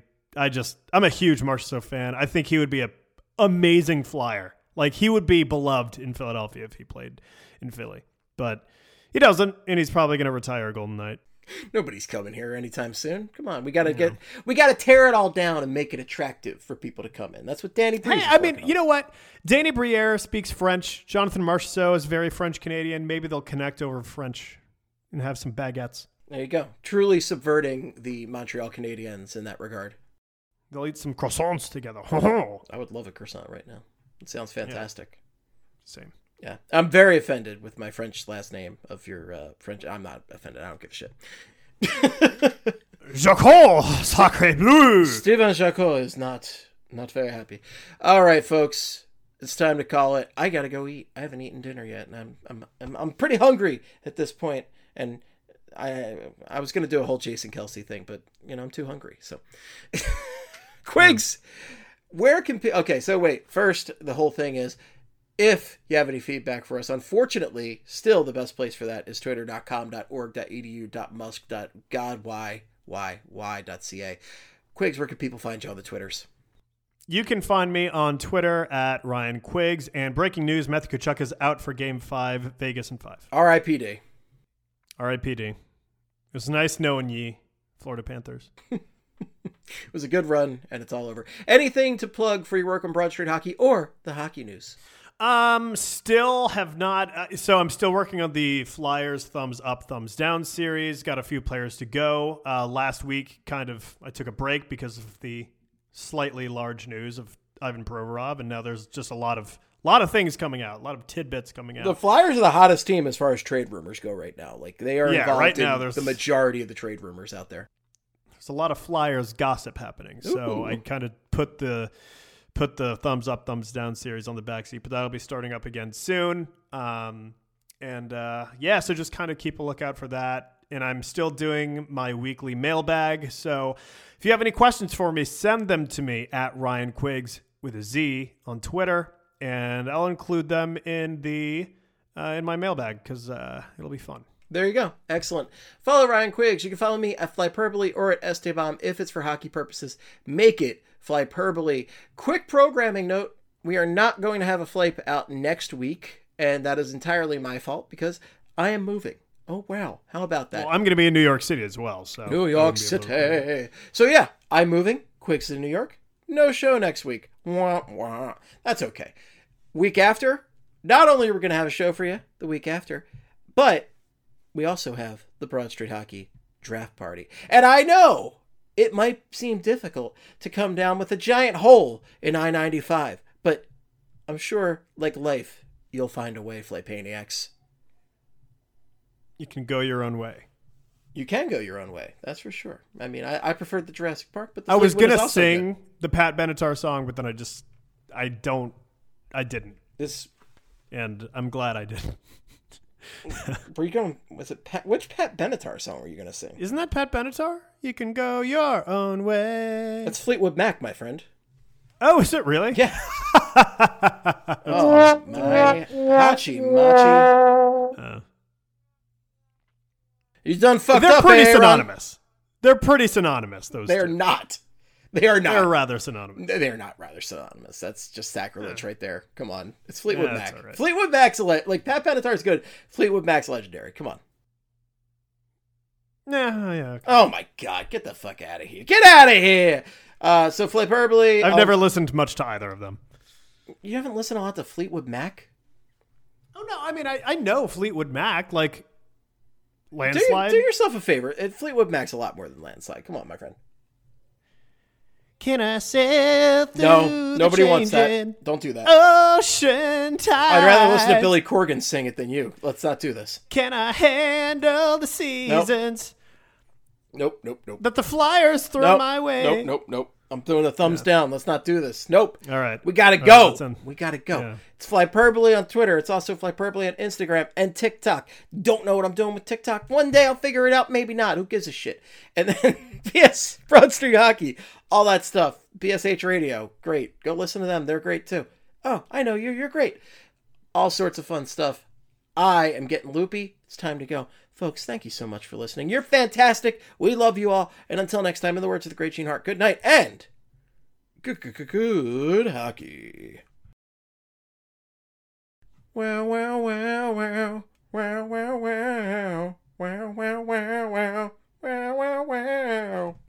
Speaker 2: a huge Marchessault fan. I think he would be an amazing flyer. Like, he would be beloved in Philadelphia if he played in Philly, but he doesn't, and he's probably going to retire a Golden Knight.
Speaker 1: Nobody's coming here anytime soon. Come on, we gotta tear it all down and make it attractive for people to come in. That's what Danny Briere.
Speaker 2: Hey, I mean, you know what? Danny Briere speaks French. Jonathan Marchessault is very French Canadian. Maybe they'll connect over French and have some baguettes.
Speaker 1: There you go. Truly subverting the Montreal Canadiens in that regard.
Speaker 2: They'll eat some croissants together.
Speaker 1: I would love a croissant right now. It sounds fantastic.
Speaker 2: Yeah. Same.
Speaker 1: Yeah, I'm very offended with my French last name of your French. I'm not offended. I don't give a shit.
Speaker 2: Jacques Sacré Bleu.
Speaker 1: Steven Jacques is not very happy. All right, folks, it's time to call it. I gotta go eat. I haven't eaten dinner yet, and I'm pretty hungry at this point. And I was gonna do a whole Jason Kelce thing, but I'm too hungry. So, Quigs, where can okay? So wait, first the whole thing is, if you have any feedback for us, unfortunately, still the best place for that is twitter.com.org.edu.musk.godwhy.ca. Quigs, where can people find you on the Twitters?
Speaker 2: You can find me on Twitter at Ryan Quiggs. And breaking news, Matthew Tkachuk is out for Game 5, Vegas in 5.
Speaker 1: R.I.P.D.
Speaker 2: R.I.P.D. It was nice knowing ye, Florida Panthers.
Speaker 1: It was a good run, and it's all over. Anything to plug for your work on Broad Street Hockey or the hockey news?
Speaker 2: Still have not. So I'm still working on the Flyers thumbs up, thumbs down series. Got a few players to go. Last week, I took a break because of the slightly large news of Ivan Provorov, and now there's just a lot of things coming out, a lot of tidbits coming out.
Speaker 1: The Flyers are the hottest team as far as trade rumors go right now. Like, they are involved
Speaker 2: right now,
Speaker 1: in the majority of the trade rumors out there.
Speaker 2: There's a lot of Flyers gossip happening. So I kind of put the thumbs up, thumbs down series on the backseat, but that'll be starting up again soon. So just kind of keep a lookout for that. And I'm still doing my weekly mailbag. So if you have any questions for me, send them to me at Ryan Quiggs with a Z on Twitter, and I'll include them in in my mailbag because it'll be fun.
Speaker 1: There you go. Excellent. Follow Ryan Quiggs. You can follow me at Flyperbole or at Esteban if it's for hockey purposes. Make it Flyperbole. Quick programming note. we are not going to have a Flape out next week, and that is entirely my fault because I am moving. Oh, wow. How about that?
Speaker 2: Well, I'm going to be in New York City as well. So
Speaker 1: New York City. So, yeah, I'm moving. Quick's in New York. No show next week. Wah, wah. That's okay. Week after, not only are we going to have a show for you the week after, but we also have the Broad Street Hockey Draft Party. And I know it might seem difficult to come down with a giant hole in I-95, but I'm sure, like life, you'll find a way, Flapaniacs.
Speaker 2: You can go your own way.
Speaker 1: You can go your own way, that's for sure. I mean, I preferred the Jurassic Park, but the
Speaker 2: I was
Speaker 1: Fleetwood
Speaker 2: going
Speaker 1: is
Speaker 2: to
Speaker 1: also
Speaker 2: sing
Speaker 1: good.
Speaker 2: the Pat Benatar song, but then I didn't.
Speaker 1: This,
Speaker 2: And I'm glad I didn't.
Speaker 1: were you going? Was it which Pat Benatar song were you going to sing?
Speaker 2: Isn't that Pat Benatar? You can go your own way.
Speaker 1: That's Fleetwood Mac, my friend.
Speaker 2: Oh, is it really?
Speaker 1: Yeah. Oh my hachi machi. You done fucked
Speaker 2: They're
Speaker 1: up.
Speaker 2: pretty
Speaker 1: Aaron.
Speaker 2: synonymous. They're pretty synonymous. Those
Speaker 1: They're
Speaker 2: two.
Speaker 1: not. They are not.
Speaker 2: They're rather synonymous.
Speaker 1: They're not rather synonymous. That's just sacrilege right there. Come on. It's Fleetwood
Speaker 2: Yeah,
Speaker 1: Mac.
Speaker 2: that's all right.
Speaker 1: Fleetwood Mac's like Pat Benatar's good. Fleetwood Mac's legendary. Come on.
Speaker 2: Yeah. Okay.
Speaker 1: Oh my God. Get the fuck out of here. Get out of here. So Flaperbly.
Speaker 2: I've never listened much to either of them.
Speaker 1: You haven't listened a lot to Fleetwood Mac?
Speaker 2: Oh no, I mean I know Fleetwood Mac, like
Speaker 1: Do
Speaker 2: Landslide.
Speaker 1: yourself a favor. Fleetwood Mac's a lot more than Landslide. Come on, my friend.
Speaker 2: Can I sail through
Speaker 1: No, nobody wants
Speaker 2: changing
Speaker 1: that. Don't do that.
Speaker 2: ocean tide?
Speaker 1: I'd rather listen to Billy Corgan sing it than you. Let's not do this.
Speaker 2: Can I handle the seasons
Speaker 1: Nope.
Speaker 2: that the Flyers throw
Speaker 1: Nope.
Speaker 2: my way?
Speaker 1: Nope. I'm throwing the thumbs down. Let's not do this. Nope.
Speaker 2: All right.
Speaker 1: We gotta
Speaker 2: All
Speaker 1: go.
Speaker 2: right, let's end.
Speaker 1: We gotta go.
Speaker 2: Yeah.
Speaker 1: It's Flyperbole on Twitter. It's also Flyperbole on Instagram and TikTok. Don't know what I'm doing with TikTok. One day I'll figure it out. Maybe not. Who gives a shit? And then PS, Broad Street Hockey, all that stuff. BSH Radio. Great. Go listen to them. They're great too. Oh, I know you. You're great. All sorts of fun stuff. I am getting loopy. It's time to go. Folks, thank you so much for listening. You're fantastic. We love you all. And until next time, in the words of the great Gene Hart, good night and good hockey. Wow, wow, wow, wow. Wow, wow, wow. Wow, wow, wow, wow. Wow, wow, wow.